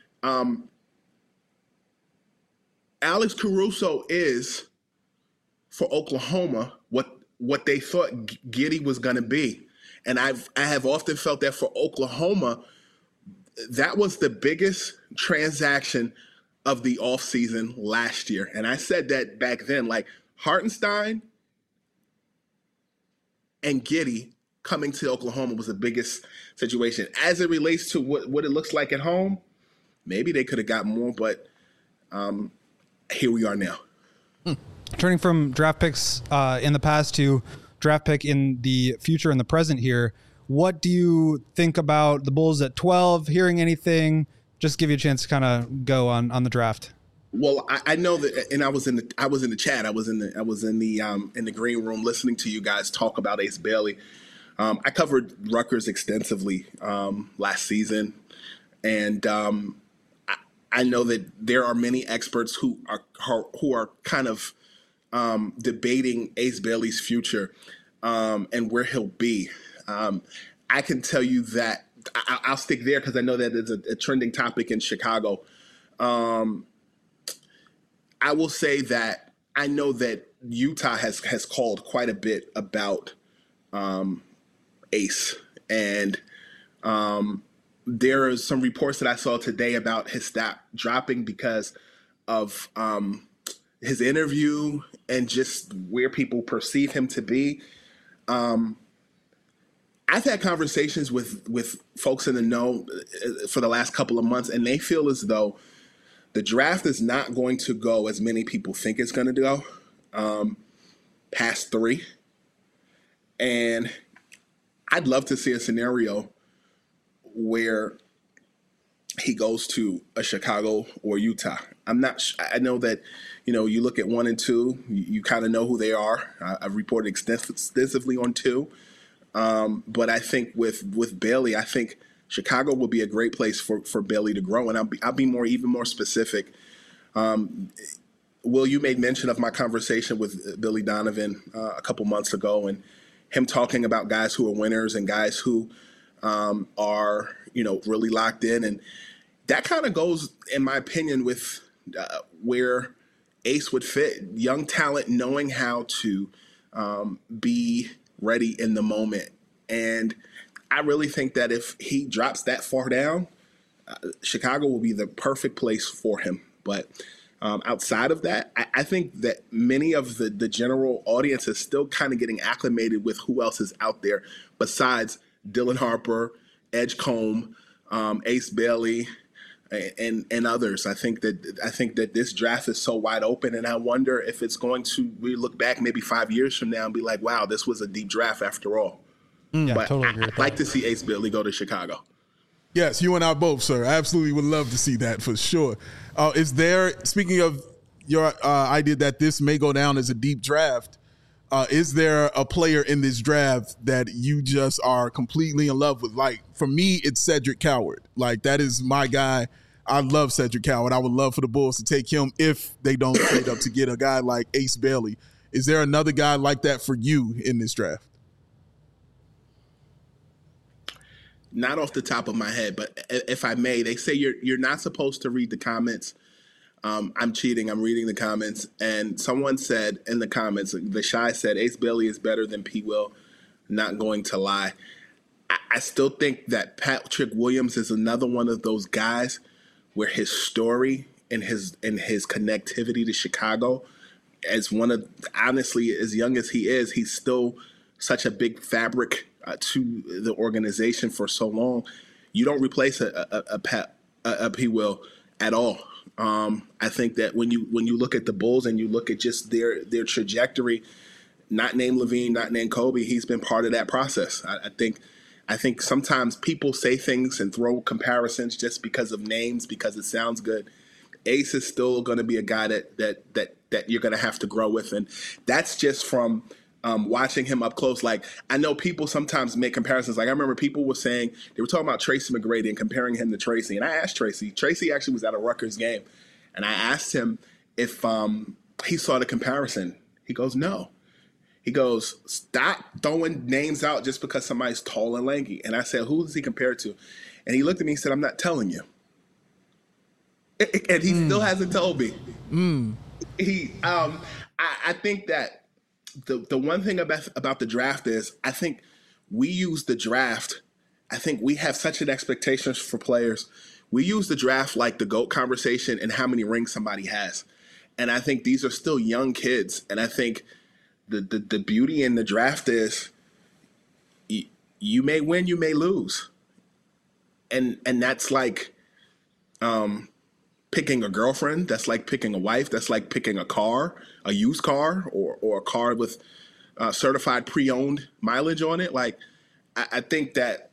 Alex Caruso is, for Oklahoma, what they thought Giddey was going to be. And I have often felt that for Oklahoma, that was the biggest transaction of the offseason last year. And I said that back then, like, Hartenstein and Giddey coming to Oklahoma was the biggest situation. As it relates to what it looks like at home, maybe they could have got more, but here we are now. Turning from draft picks in the past to draft pick in the future and the present here, what do you think about the Bulls at 12? Hearing anything? Just give you a chance to kind of go on the draft. Well, I know that, and I was in the chat. I was in the green room listening to you guys talk about Ace Bailey. I covered Rutgers extensively last season, and I know that there are many experts who are kind of debating Ace Bailey's future and where he'll be. I can tell you that I'll stick there because I know that it's a trending topic in Chicago. I will say that I know that Utah has called quite a bit about Ace, and there are some reports that I saw today about his stat dropping because of his interview and just where people perceive him to be. I've had conversations with folks in the know for the last couple of months, and they feel as though the draft is not going to go as many people think it's going to go past 3. And I'd love to see a scenario where he goes to a Chicago or Utah. I know that, you look at 1 and 2, you kind of know who they are. I've reported extensively on 2. But I think with Bailey, I think Chicago will be a great place for Bailey to grow. And I'll be even more specific. Will, you made mention of my conversation with Billy Donovan a couple months ago, and him talking about guys who are winners and guys who are, really locked in. And that kind of goes, in my opinion, with where Ace would fit. Young talent knowing how to be ready in the moment. And I really think that if he drops that far down, Chicago will be the perfect place for him. But outside of that, I think that many of the general audience is still kind of getting acclimated with who else is out there besides Dylan Harper, Edgecombe, Ace Bailey, and others. I think that this draft is so wide open, and I wonder if it's going to. We look back maybe 5 years from now and be like, "Wow, this was a deep draft after all." Yeah, but totally agree with I'd like to see Ace Bailey go to Chicago. Yes, you and I both, sir. I absolutely would love to see that for sure. Is there, speaking of your idea that this may go down as a deep draft, is there a player in this draft that you just are completely in love with? Like, for me, it's Cedric Coward. Like, that is my guy. I love Cedric Coward. I would love for the Bulls to take him if they don't trade up to get a guy like Ace Bailey. Is there another guy like that for you in this draft? Not off the top of my head, but if I may, they say you're not supposed to read the comments. I'm cheating. I'm reading the comments. And someone said in the comments, the Shy said, Ace Bailey is better than P. Will. Not going to lie. I still think that Patrick Williams is another one of those guys where his story and his connectivity to Chicago, honestly, as young as he is, he's still such a big fabric to the organization for so long. You don't replace a P. Will at all. I think that when you look at the Bulls and you look at just their trajectory, not named Levine, not named Kobe, he's been part of that process. I think sometimes people say things and throw comparisons just because of names, because it sounds good. Ace is still going to be a guy that you're going to have to grow with, and that's just from watching him up close. Like, I know people sometimes make comparisons. Like, I remember people were saying, they were talking about Tracy McGrady and comparing him to Tracy. And I asked Tracy actually was at a Rutgers game. And I asked him if he saw the comparison. He goes, no. He goes, stop throwing names out just because somebody's tall and lanky. And I said, who does he compare to? And he looked at me and said, I'm not telling you. And he still hasn't told me. I think that the one thing about the draft is I think we use the draft. I think we have such an expectation for players. We use the draft like the GOAT conversation and how many rings somebody has. And I think these are still young kids. And I think the beauty in the draft is you may win, you may lose. And that's like picking a girlfriend. That's like picking a wife. That's like picking a car, a used car, or a car with certified pre-owned mileage on it. Like, I think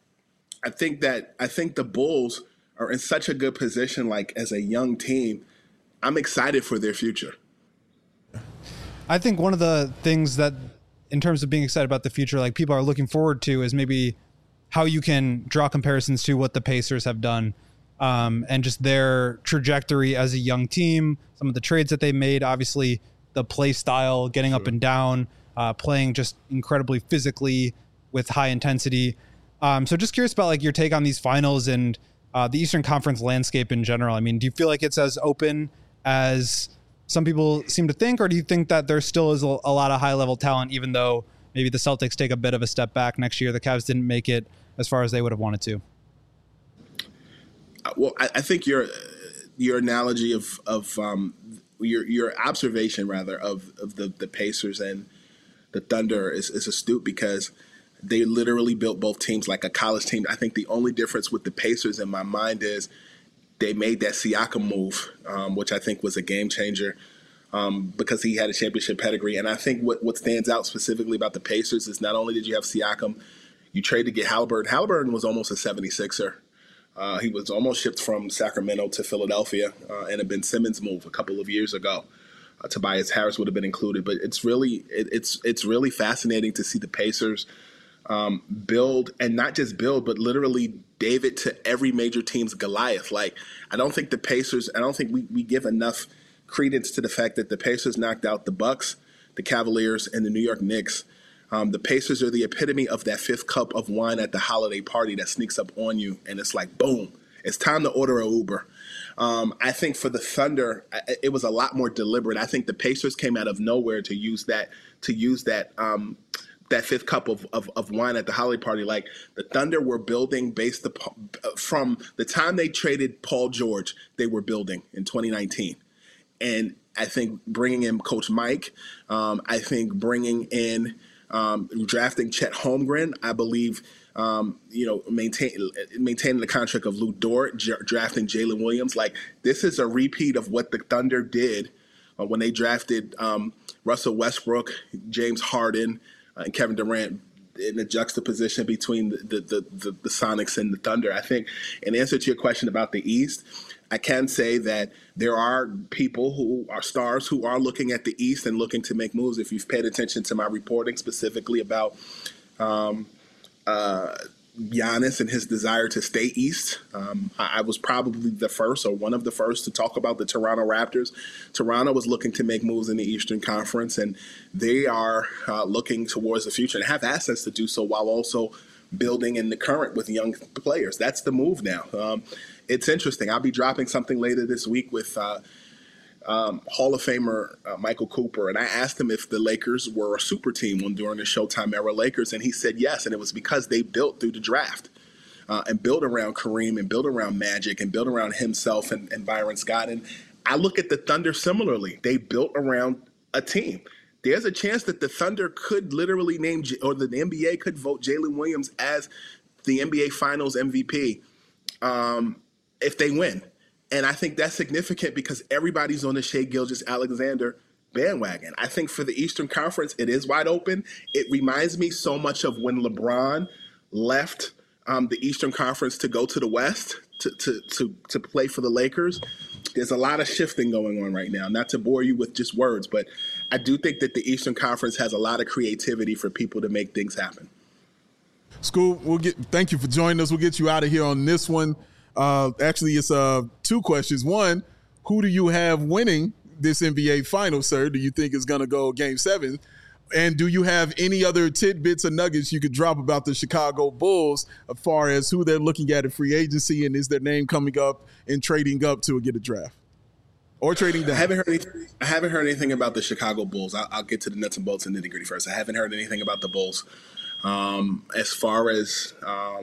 the Bulls are in such a good position, like as a young team. I'm excited for their future. I think one of the things that, in terms of being excited about the future, like people are looking forward to, is maybe how you can draw comparisons to what the Pacers have done, and just their trajectory as a young team, some of the trades that they made. Obviously, the play style, getting up and down, playing just incredibly physically with high intensity. So just curious about like your take on these finals and the Eastern Conference landscape in general. I mean, do you feel like it's as open as some people seem to think, or do you think that there still is a lot of high level talent, even though maybe the Celtics take a bit of a step back next year? The Cavs didn't make it as far as they would have wanted to. Well, I think your analogy of your observation rather of the Pacers and the Thunder is astute, because they literally built both teams like a college team. I think the only difference with the Pacers in my mind is they made that Siakam move, which I think was a game changer, because he had a championship pedigree. And I think what stands out specifically about the Pacers is not only did you have Siakam, you trade to get Halliburton. Halliburton was almost a 76er. He was almost shipped from Sacramento to Philadelphia in a Ben Simmons move a couple of years ago. Tobias Harris would have been included, but it's really fascinating to see the Pacers build, and not just build, but literally David to every major team's Goliath. Like, I don't think we give enough credence to the fact that the Pacers knocked out the Bucks, the Cavaliers, and the New York Knicks. The Pacers are the epitome of that fifth cup of wine at the holiday party that sneaks up on you, and it's like, boom, it's time to order an Uber. I think for the Thunder, it was a lot more deliberate. I think the Pacers came out of nowhere to use that fifth cup of wine at the holiday party. Like, the Thunder were building based upon, from the time they traded Paul George, they were building in 2019. And I think bringing in Coach Mike, I think bringing in drafting Chet Holmgren, I believe, maintaining the contract of Lou Dort, drafting Jalen Williams. Like, this is a repeat of what the Thunder did when they drafted Russell Westbrook, James Harden, and Kevin Durant, in the juxtaposition between the Sonics and the Thunder. I think, in answer to your question about the East, I can say that there are people who are stars who are looking at the East and looking to make moves. If you've paid attention to my reporting specifically about Giannis and his desire to stay East, I was probably the first or one of the first to talk about the Toronto Raptors. Toronto was looking to make moves in the Eastern Conference, and they are looking towards the future and have assets to do so while also building in the current with young players. That's the move now. It's interesting. I'll be dropping something later this week with Hall of Famer Michael Cooper, and I asked him if the Lakers were a super team during the Showtime era Lakers, and he said yes, and it was because they built through the draft and built around Kareem and built around Magic and built around himself and Byron Scott. And I look at the Thunder similarly. They built around a team. There's a chance that the Thunder could literally name, or the NBA could vote Jalen Williams as the NBA Finals MVP if they win. And I think that's significant because everybody's on the Shai Gilgeous-Alexander bandwagon. I think for the Eastern Conference, it is wide open. It reminds me so much of when LeBron left the Eastern Conference to go to the West to play for the Lakers. There's a lot of shifting going on right now. Not to bore you with just words, but I do think that the Eastern Conference has a lot of creativity for people to make things happen. School, thank you for joining us. We'll get you out of here on this one. Actually, it's two questions. One, who do you have winning this NBA final, sir? Do you think it's going to go Game 7? And do you have any other tidbits or nuggets you could drop about the Chicago Bulls as far as who they're looking at in free agency, and is their name coming up and trading up to get a draft or trading down? I haven't heard anything about the Chicago Bulls. I'll get to the nuts and bolts and nitty-gritty first. I haven't heard anything about the Bulls. As far as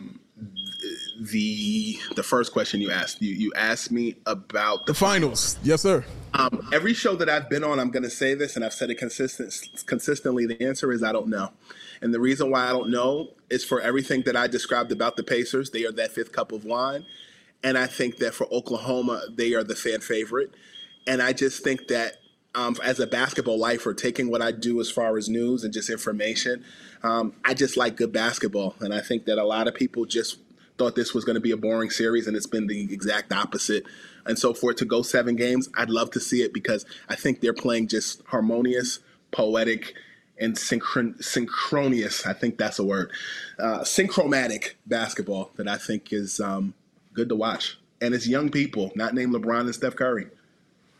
the first question you asked, you asked me about the finals. Yes, sir. Every show that I've been on, I'm going to say this, and I've said it consistently. The answer is I don't know. And the reason why I don't know is for everything that I described about the Pacers. They are that fifth cup of wine. And I think that for Oklahoma, they are the fan favorite. And I just think that as a basketball lifer, taking what I do as far as news and just information, I just like good basketball. And I think that a lot of people just thought this was going to be a boring series, and it's been the exact opposite. And so for it to go 7 games, I'd love to see it because I think they're playing just harmonious, poetic, and synchronous, I think that's a word, synchromatic basketball that I think is good to watch. And it's young people, not named LeBron and Steph Curry.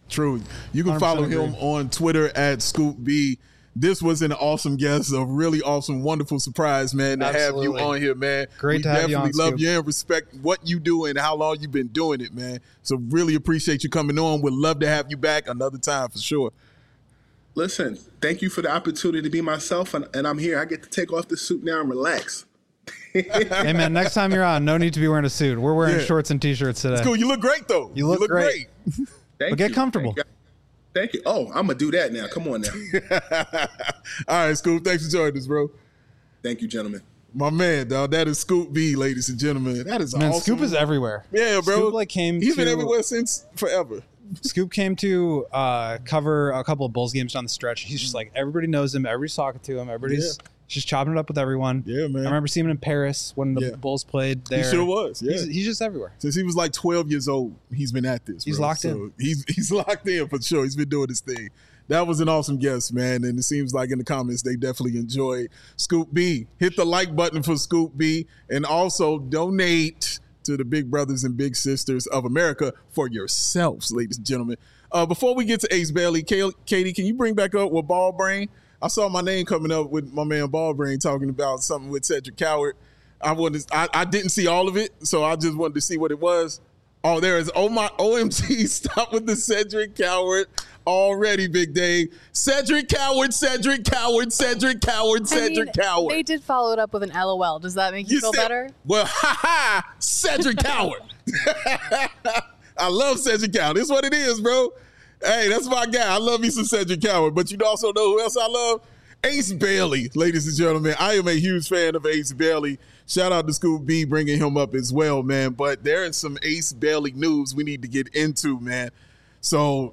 True. You can 100% follow agree. him on Twitter at Scoop B. This was an awesome guest, a really awesome, wonderful surprise, man, to Absolutely. have you on here, man. Great to have you on, definitely love Scoop. you and respect what you do and how long you've been doing it, man. So really appreciate you coming on. Would love to have you back another time for sure. Listen, thank you for the opportunity to be myself, and I'm here. I get to take off the suit now and relax. Hey, man, next time you're on, no need to be wearing a suit. We're wearing Yeah. shorts and T-shirts today. Cool. You look great, though. You look great. Thank But get you. comfortable. Thank you. Oh, I'm going to do that now. Come on now. All right, Scoop. Thanks for joining us, bro. Thank you, gentlemen. My man, dog. That is Scoop B, ladies and gentlemen. That is Man, awesome. Scoop is everywhere. Yeah, bro. Scoop like came. He's been to- everywhere since forever. Scoop came to cover a couple of Bulls games down the stretch. He's just like, everybody knows him. Everybody's talking to him. Everybody's just chopping it up with everyone. Yeah, man. I remember seeing him in Paris when the Yeah. Bulls played there. He sure was. Yeah. He's just everywhere. Since he was like 12 years old, he's been at this. He's bro. locked So he's locked in for sure. He's been doing his thing. That was an awesome guest, man. And it seems like in the comments they definitely enjoyed Scoop B. Hit the like button for Scoop B and also donate to the big brothers and big sisters of America for yourselves, ladies and gentlemen. Before we get to Ace Bailey, Katie, can you bring back up with Ball Brain? I saw my name coming up with my man Ball Brain talking about something with Cedric Coward. I didn't see all of it, so I just wanted to see what it was. Oh, there is. Oh, my OMG. Stop with the Cedric Coward already, Big Dave. Cedric Coward, Cedric Coward, Cedric Coward, Cedric Coward. They did follow it up with an LOL. Does that make you feel said- better? Well, Cedric Coward. I love Cedric Coward. This is what it is, bro. Hey, that's my guy. I love me some Cedric Coward. But you also know who else I love? Ace Bailey, ladies and gentlemen. I am a huge fan of Ace Bailey. Shout out to Scoop B bringing him up as well, man. But there is some Ace Bailey news we need to get into, man. So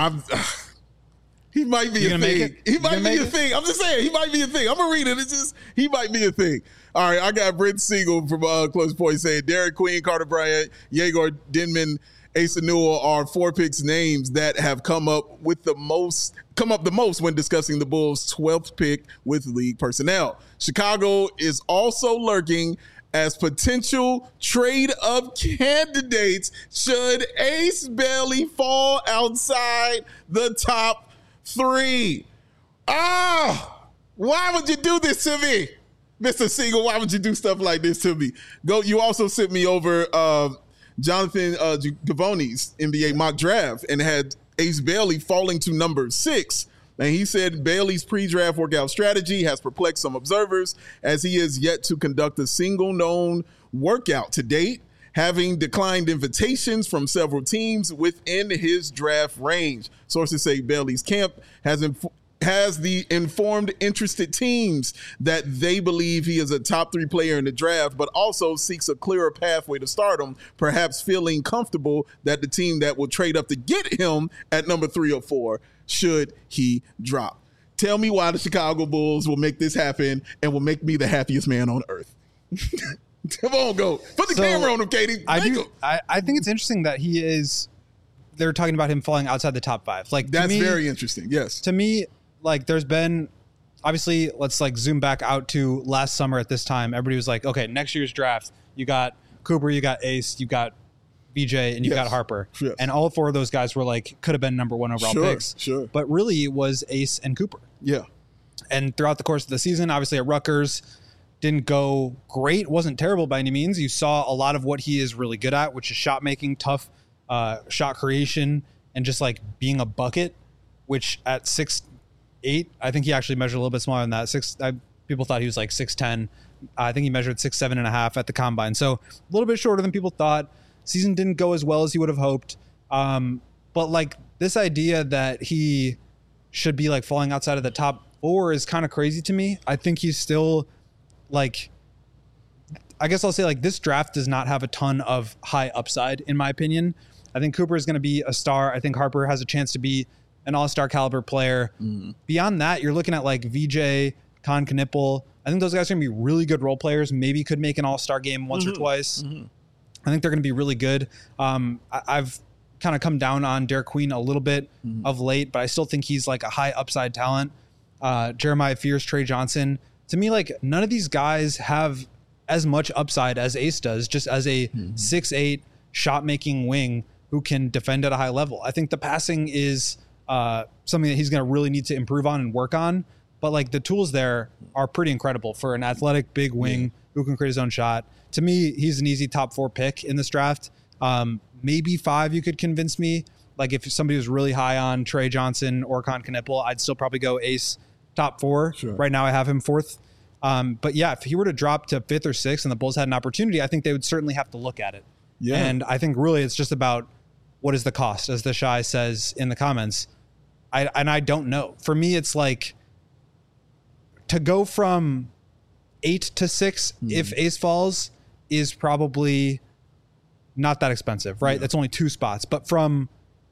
he might be You a gonna make thing. it? He You might gonna be make a it? thing. I'm just saying, he might be a thing. I'm gonna read it. It's just he might be a thing. All right, I got Brent Siegel from Close Point saying Derek Queen, Carter Bryant, Yegor Denman, Asa Newell are 4 picks names that have come up the most when discussing the Bulls' 12th pick with league personnel. Chicago is also lurking as potential trade-up candidates should Ace Bailey fall outside the top 3. Why would you do this to me? Mr. Siegel, why would you do stuff like this to me? You also sent me over Jonathan Gavoni's NBA mock draft and had Ace Bailey falling to number 6. And he said Bailey's pre-draft workout strategy has perplexed some observers as he has yet to conduct a single known workout to date, having declined invitations from several teams within his draft range. Sources say Bailey's camp has the informed interested teams that they believe he is a top 3 player in the draft, but also seeks a clearer pathway to stardom, perhaps feeling comfortable that the team that will trade up to get him at number 3 or 4 should he drop. Tell me why the Chicago Bulls will make this happen and will make me the happiest man on earth. Come on, go. Put the camera on him, Katie. I Make do. him. I think it's interesting that he is. They're talking about him falling outside the top 5. Like That's to me, very interesting. Yes. to me, like there's been obviously, let's like zoom back out to last summer at this time. Everybody was like, okay, next year's draft, you got Cooper, you got Ace, you got VJ, and you Yes. got Harper. Yes. And all 4 of those guys were like, could have been number 1 overall Sure, picks. sure. But really it was Ace and Cooper. Yeah. And throughout the course of the season, obviously at Rutgers, didn't go great, wasn't terrible by any means. You saw a lot of what he is really good at, which is shot making, tough shot creation, and just like being a bucket, which at 6'8", I think he actually measured a little bit smaller than that. People thought he was like 6'10". I think he measured 6'7.5" at the combine. So a little bit shorter than people thought. Season didn't go as well as he would have hoped. But like this idea that he should be like falling outside of the top 4 is kind of crazy to me. I think he's still like, I guess I'll say like this draft does not have a ton of high upside in my opinion. I think Cooper is going to be a star. I think Harper has a chance to be an all-star caliber player. Beyond that, you're looking at like VJ, Con Knipple. I think those guys are going to be really good role players. Maybe could make an all-star game once or twice. I think they're going to be really good. I've kind of come down on Derek Queen a little bit of late, but I still think he's like a high upside talent. Jeremiah Fears, Trey Johnson. To me, like none of these guys have as much upside as Ace does, just as a 6'8" shot making wing who can defend at a high level. I think the passing is something that he's going to really need to improve on and work on. But like the tools there are pretty incredible for an athletic big wing who can create his own shot. To me, he's an easy top 4 pick in this draft. Maybe 5 you could convince me. Like if somebody was really high on Trey Johnson or Con Knipple, I'd still probably go Ace top 4. Sure. Right now I have him 4th. But yeah, if he were to drop to 5th or 6th and the Bulls had an opportunity, I think they would certainly have to look at it. Yeah. And I think really it's just about what is the cost, as the Shy says in the comments. I don't know. For me, it's like to go from 8 to 6 if Ace falls is probably not that expensive, right? That's only 2 spots. But from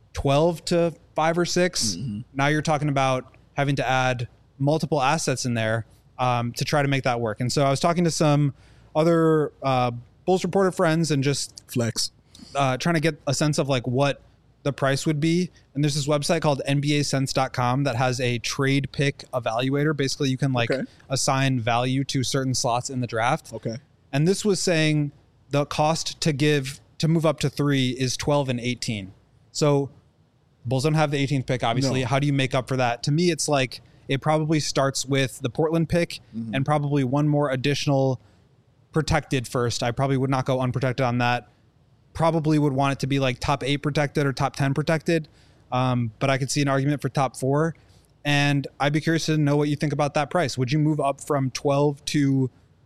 12 to 5 or 6, now you're talking about having to add multiple assets in there to try to make that work. And so I was talking to some other Bulls Reporter friends and just trying to get a sense of like what the price would be. And there's this website called NBAsense.com that has a trade pick evaluator. Basically, you can assign value to certain slots in the draft. Okay. And this was saying the cost to move up to 3 is 12 and 18. So Bulls don't have the 18th pick, obviously. No. How do you make up for that? To me, it's like it probably starts with the Portland pick and probably one more additional protected first. I probably would not go unprotected on that. Probably would want it to be like top 8 protected or top 10 protected. But I could see an argument for top 4. And I'd be curious to know what you think about that price. Would you move up from 12 to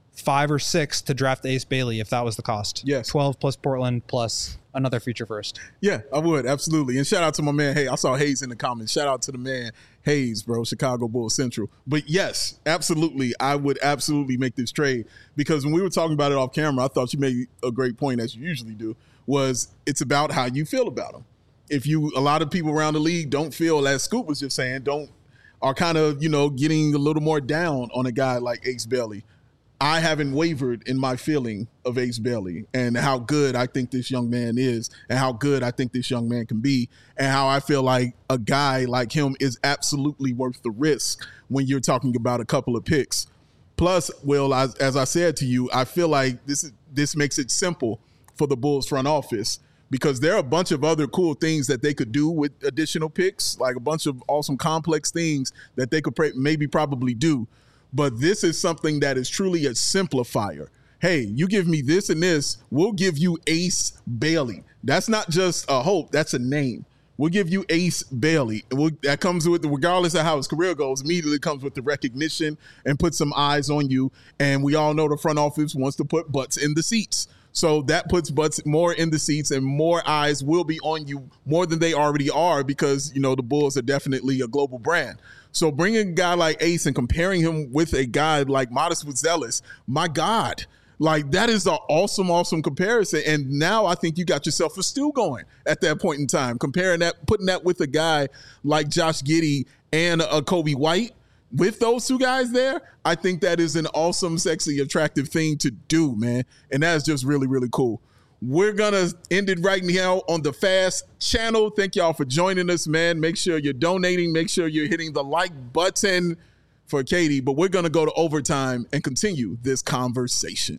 5 or 6 to draft Ace Bailey if that was the cost? Yes. 12 plus Portland plus another future first. Yeah, I would. Absolutely. And shout out to my man. Hey, I saw Hayes in the comments. Shout out to the man Hayes, bro, Chicago Bulls Central. But yes, absolutely. I would absolutely make this trade because when we were talking about it off camera, I thought you made a great point, as you usually do, was it's about how you feel about them. If a lot of people around the league don't feel, as Scoop was just saying, are kind of, getting a little more down on a guy like Ace Bailey. I haven't wavered in my feeling of Ace Bailey and how good I think this young man is and how good I think this young man can be and how I feel like a guy like him is absolutely worth the risk when you're talking about a couple of picks. Plus, Will, as I said to you, I feel like this makes it simple for the Bulls front office because there are a bunch of other cool things that they could do with additional picks, like a bunch of awesome complex things that they could probably do. But this is something that is truly a simplifier. Hey, you give me this and this, we'll give you Ace Bailey. That's not just a hope, that's a name. We'll give you Ace Bailey. That comes with, regardless of how his career goes, immediately comes with the recognition and put some eyes on you. And we all know the front office wants to put butts in the seats. So that puts butts more in the seats and more eyes will be on you more than they already are because, the Bulls are definitely a global brand. So bringing a guy like Ace and comparing him with a guy like Modest Buzelis, my God, like that is an awesome, awesome comparison. And now I think you got yourself a stew going at that point in time, comparing that, putting that with a guy like Josh Giddey and a Kobe White. With those two guys there, I think that is an awesome, sexy, attractive thing to do, man. And that's just really, really cool. We're going to end it right now on the Fast channel. Thank y'all for joining us, man. Make sure you're donating. Make sure you're hitting the like button for Katie. But we're going to go to overtime and continue this conversation.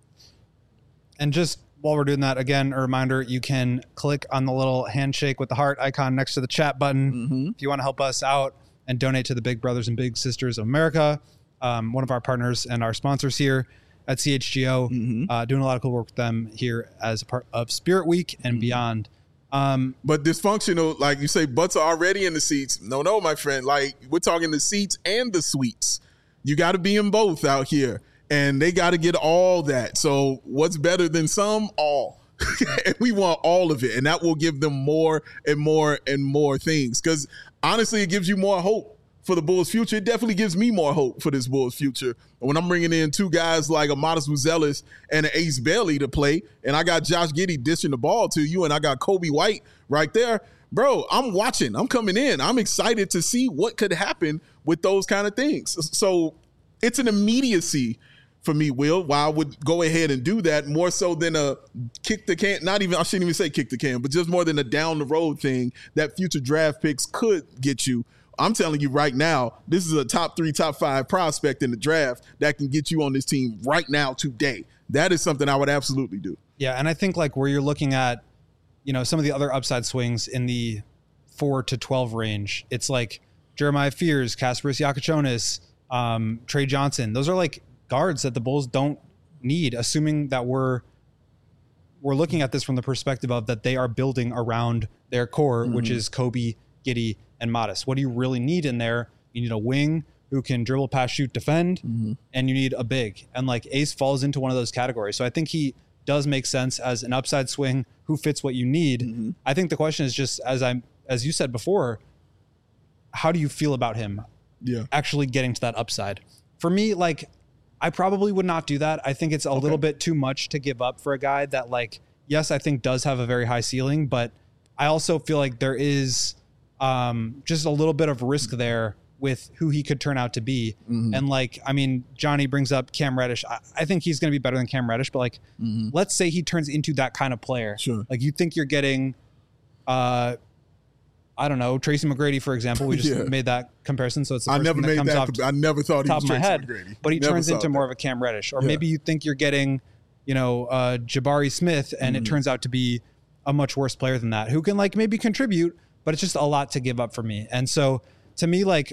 And just while we're doing that, again, a reminder, you can click on the little handshake with the heart icon next to the chat button if you want to help us out and donate to the Big Brothers and Big Sisters of America, one of our partners and our sponsors here at CHGO, doing a lot of cool work with them here as a part of Spirit Week and beyond. But dysfunctional, like you say, butts are already in the seats. No, my friend. Like, we're talking the seats and the suites. You got to be in both out here, and they got to get all that. So what's better than some? All. And we want all of it, and that will give them more and more and more things. Because honestly, it gives you more hope for the Bulls' future. It definitely gives me more hope for this Bulls' future. When I'm bringing in two guys like a Modest Buzelis and an Ace Bailey to play, and I got Josh Giddey dishing the ball to you, and I got Kobe White right there, bro, I'm watching. I'm coming in. I'm excited to see what could happen with those kind of things. So it's an immediacy for me, Will, why I would go ahead and do that more so than a kick the can, I shouldn't even say kick the can, but just more than a down the road thing that future draft picks could get you. I'm telling you right now, this is a top 3, top 5 prospect in the draft that can get you on this team right now today. That is something I would absolutely do. Yeah, and I think like where you're looking at some of the other upside swings in the 4 to 12 range. It's like Jeremiah Fears, Kasparis Yakuchonis, Trey Johnson. Those are like guards that the Bulls don't need, assuming that we're looking at this from the perspective of that they are building around their core, which is Kobe, Giddey, and Modest. What do you really need in there? You need a wing who can dribble, pass, shoot, defend, and you need a big. And like Ace falls into one of those categories. So I think he does make sense as an upside swing who fits what you need. I think the question is just, as you said before, how do you feel about him actually getting to that upside? For me, like, I probably would not do that. I think it's a little bit too much to give up for a guy that, like, yes, I think does have a very high ceiling, but I also feel like there is just a little bit of risk there with who he could turn out to be. And like, I mean, Johnny brings up Cam Reddish. I think he's going to be better than Cam Reddish, but like, let's say he turns into that kind of player. Sure. Like, you think you're getting, I don't know, Tracy McGrady, for example. We just made that comparison. So it's the first thing that comes off I never thought he was Tracy McGrady. But he turns into more of a Cam Reddish. Or maybe you think you're getting, Jabari Smith, and it turns out to be a much worse player than that, who can like maybe contribute, but it's just a lot to give up for me. And so to me, like,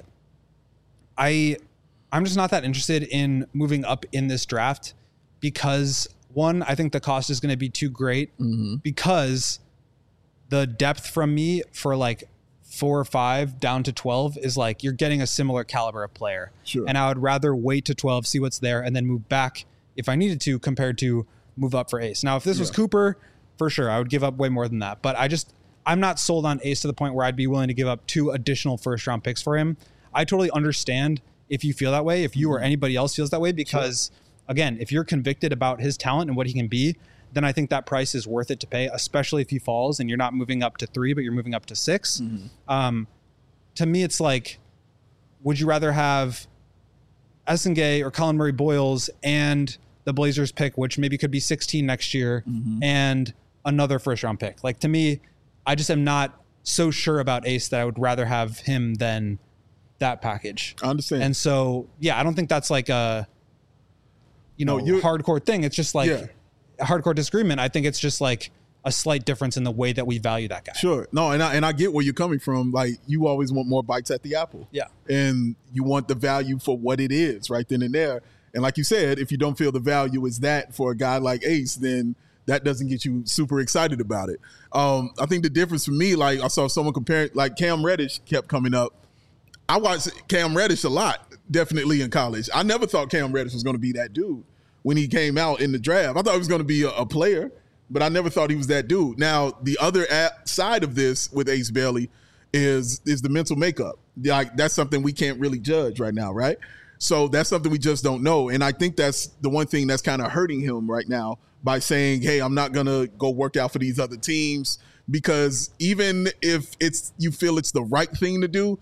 I'm just not that interested in moving up in this draft because, one, I think the cost is going to be too great because the depth from me for like 4 or 5 down to 12 is like you're getting a similar caliber of player. Sure. And I would rather wait to 12, see what's there, and then move back if I needed to, compared to move up for Ace. Now, if this was Cooper, for sure, I would give up way more than that. But I'm not sold on Ace to the point where I'd be willing to give up 2 additional first-round picks for him. I totally understand if you feel that way, if you or anybody else feels that way, because, again, if you're convicted about his talent and what he can be, then I think that price is worth it to pay, especially if he falls and you're not moving up to 3, but you're moving up to 6. To me, it's like, would you rather have Essengay or Colin Murray Boyles and the Blazers pick, which maybe could be 16 next year, and another first-round pick? Like, to me, I just am not so sure about Ace that I would rather have him than that package. I understand. And so, I don't think that's like a, hardcore thing. It's just like a hardcore disagreement. I think it's just like a slight difference in the way that we value that guy. Sure. No, and I get where you're coming from. Like, you always want more bites at the apple. Yeah. And you want the value for what it is right then and there. And like you said, if you don't feel the value is that for a guy like Ace, then that doesn't get you super excited about it. I think the difference for me, like I saw someone comparing, like Cam Reddish kept coming up. I watched Cam Reddish a lot, definitely in college. I never thought Cam Reddish was going to be that dude when he came out in the draft. I thought he was going to be a player, but I never thought he was that dude. Now, the other side of this with Ace Bailey is the mental makeup. Like, that's something we can't really judge right now, right? So that's something we just don't know. And I think that's the one thing that's kind of hurting him right now by saying, hey, I'm not going to go work out for these other teams, because even if you feel it's the right thing to do,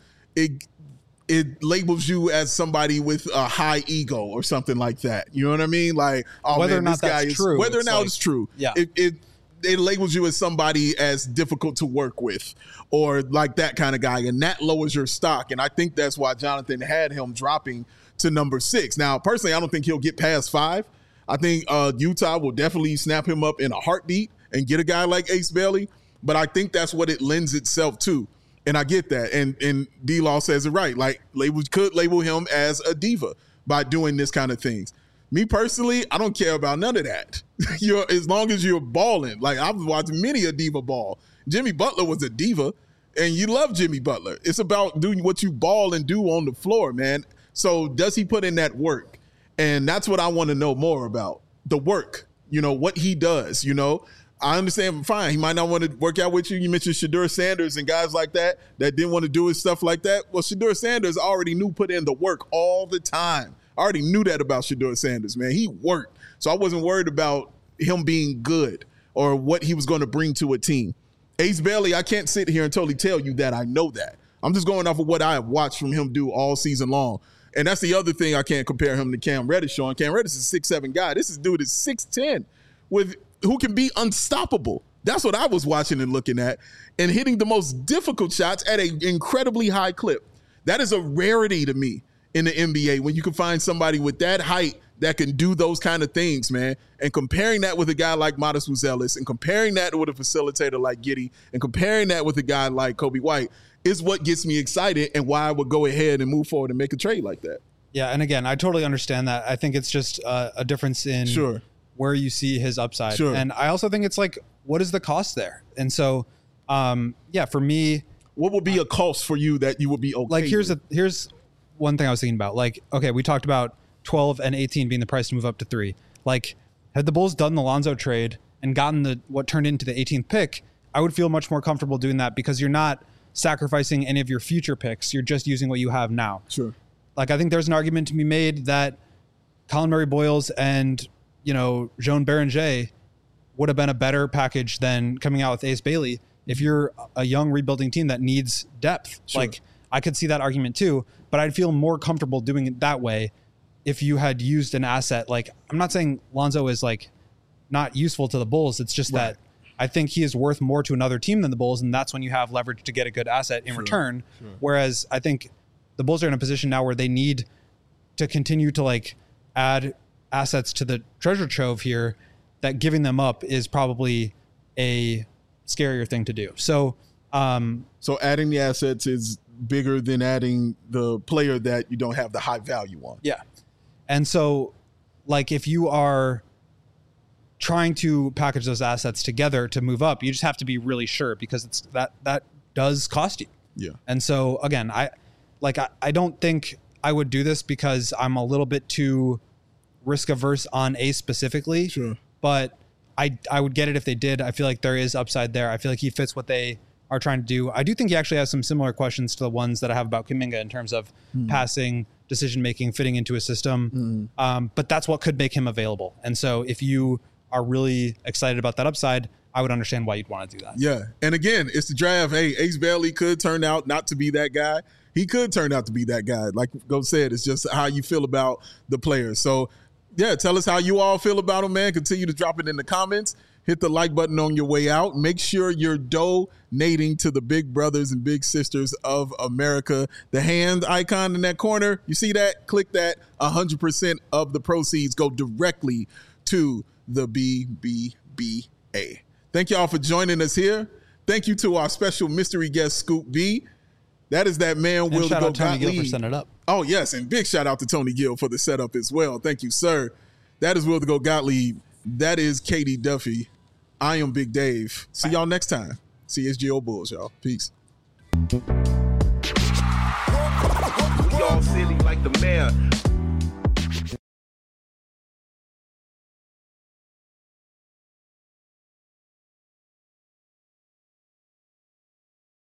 it labels you as somebody with a high ego or something like that. You know what I mean? Like, whether or not that's true. Whether or not it's true. Yeah. It labels you as somebody as difficult to work with, or like that kind of guy, and that lowers your stock. And I think that's why Jonathan had him dropping to number 6. Now, personally, I don't think he'll get past 5. I think Utah will definitely snap him up in a heartbeat and get a guy like Ace Bailey. But I think that's what it lends itself to. And I get that. And D-Law says it right. Like, could label him as a diva by doing this kind of things. Me personally, I don't care about none of that. As long as you're balling. Like, I've watched many a diva ball. Jimmy Butler was a diva, and you love Jimmy Butler. It's about doing what you ball and do on the floor, man. So does he put in that work? And that's what I want to know more about. The work, what he does, I understand, fine, he might not want to work out with you. You mentioned Shedeur Sanders and guys like that didn't want to do his stuff like that. Well, Shedeur Sanders already put in the work all the time. I already knew that about Shedeur Sanders, man. He worked. So I wasn't worried about him being good or what he was going to bring to a team. Ace Bailey, I can't sit here and totally tell you that I know that. I'm just going off of what I have watched from him do all season long. And that's the other thing I can't compare him to Cam Reddish on. Cam Reddish is a 6'7" guy. This dude is 6'10", who can be unstoppable. That's what I was watching and looking at, and hitting the most difficult shots at an incredibly high clip. That is a rarity to me in the NBA, when you can find somebody with that height that can do those kind of things, man. And comparing that with a guy like Modest Buzelis and comparing that with a facilitator like Giddey and comparing that with a guy like Kobe White is what gets me excited and why I would go ahead and move forward and make a trade like that. Yeah, and again, I totally understand that. I think it's just a difference in where you see his upside. Sure. And I also think it's like, what is the cost there? And so, for me, what would be a cost for you that you would be okay like, here's one thing I was thinking about. Like, okay, we talked about 12 and 18 being the price to move up to 3. Like, had the Bulls done the Lonzo trade and gotten what turned into the 18th pick, I would feel much more comfortable doing that because you're not sacrificing any of your future picks. You're just using what you have now. Sure. Like, I think there's an argument to be made that Colin Murray-Boyles and, Jean Beringer would have been a better package than coming out with Ace Bailey if you're a young rebuilding team that needs depth. Sure. Like, I could see that argument too, but I'd feel more comfortable doing it that way if you had used an asset. Like, I'm not saying Lonzo is like not useful to the Bulls. It's just that I think he is worth more to another team than the Bulls, and that's when you have leverage to get a good asset in return. Sure. Whereas I think the Bulls are in a position now where they need to continue to like add assets to the treasure trove here, that giving them up is probably a scarier thing to do. So adding the assets is bigger than adding the player that you don't have the high value on. Yeah. And so, like, if you are trying to package those assets together to move up, you just have to be really sure, because it's that does cost you. Yeah. And so again, I don't think I would do this because I'm a little bit too risk averse on Ace specifically. Sure. But I would get it if they did. I feel like there is upside there. I feel like he fits what they are trying to do. I do think he actually has some similar questions to the ones that I have about Kuminga in terms of passing, decision-making, fitting into a system. But that's what could make him available. And so if you are really excited about that upside, I would understand why you'd want to do that. Yeah. And again, it's the draft. Hey, Ace Bailey could turn out not to be that guy. He could turn out to be that guy. Like Go said, it's just how you feel about the players. So, yeah, tell us how you all feel about him, man. Continue to drop it in the comments. Hit the like button on your way out. Make sure you're donating to the big brothers and big sisters of America. The hand icon in that corner, you see that? Click that. 100% of the proceeds go directly to the BBBA. Thank y'all for joining us here. Thank you to our special mystery guest, Scoop B. That is that man, Will shout to out go Tony Gill Gottlieb. for setting it up. Oh, yes, and big shout out to Tony Gill for the setup as well. Thank you, sir. That is Will to go Gottlieb. That is Katie Duffy. I am Big Dave. See y'all next time. CSGO Bulls, y'all. Peace. We all silly like the mayor.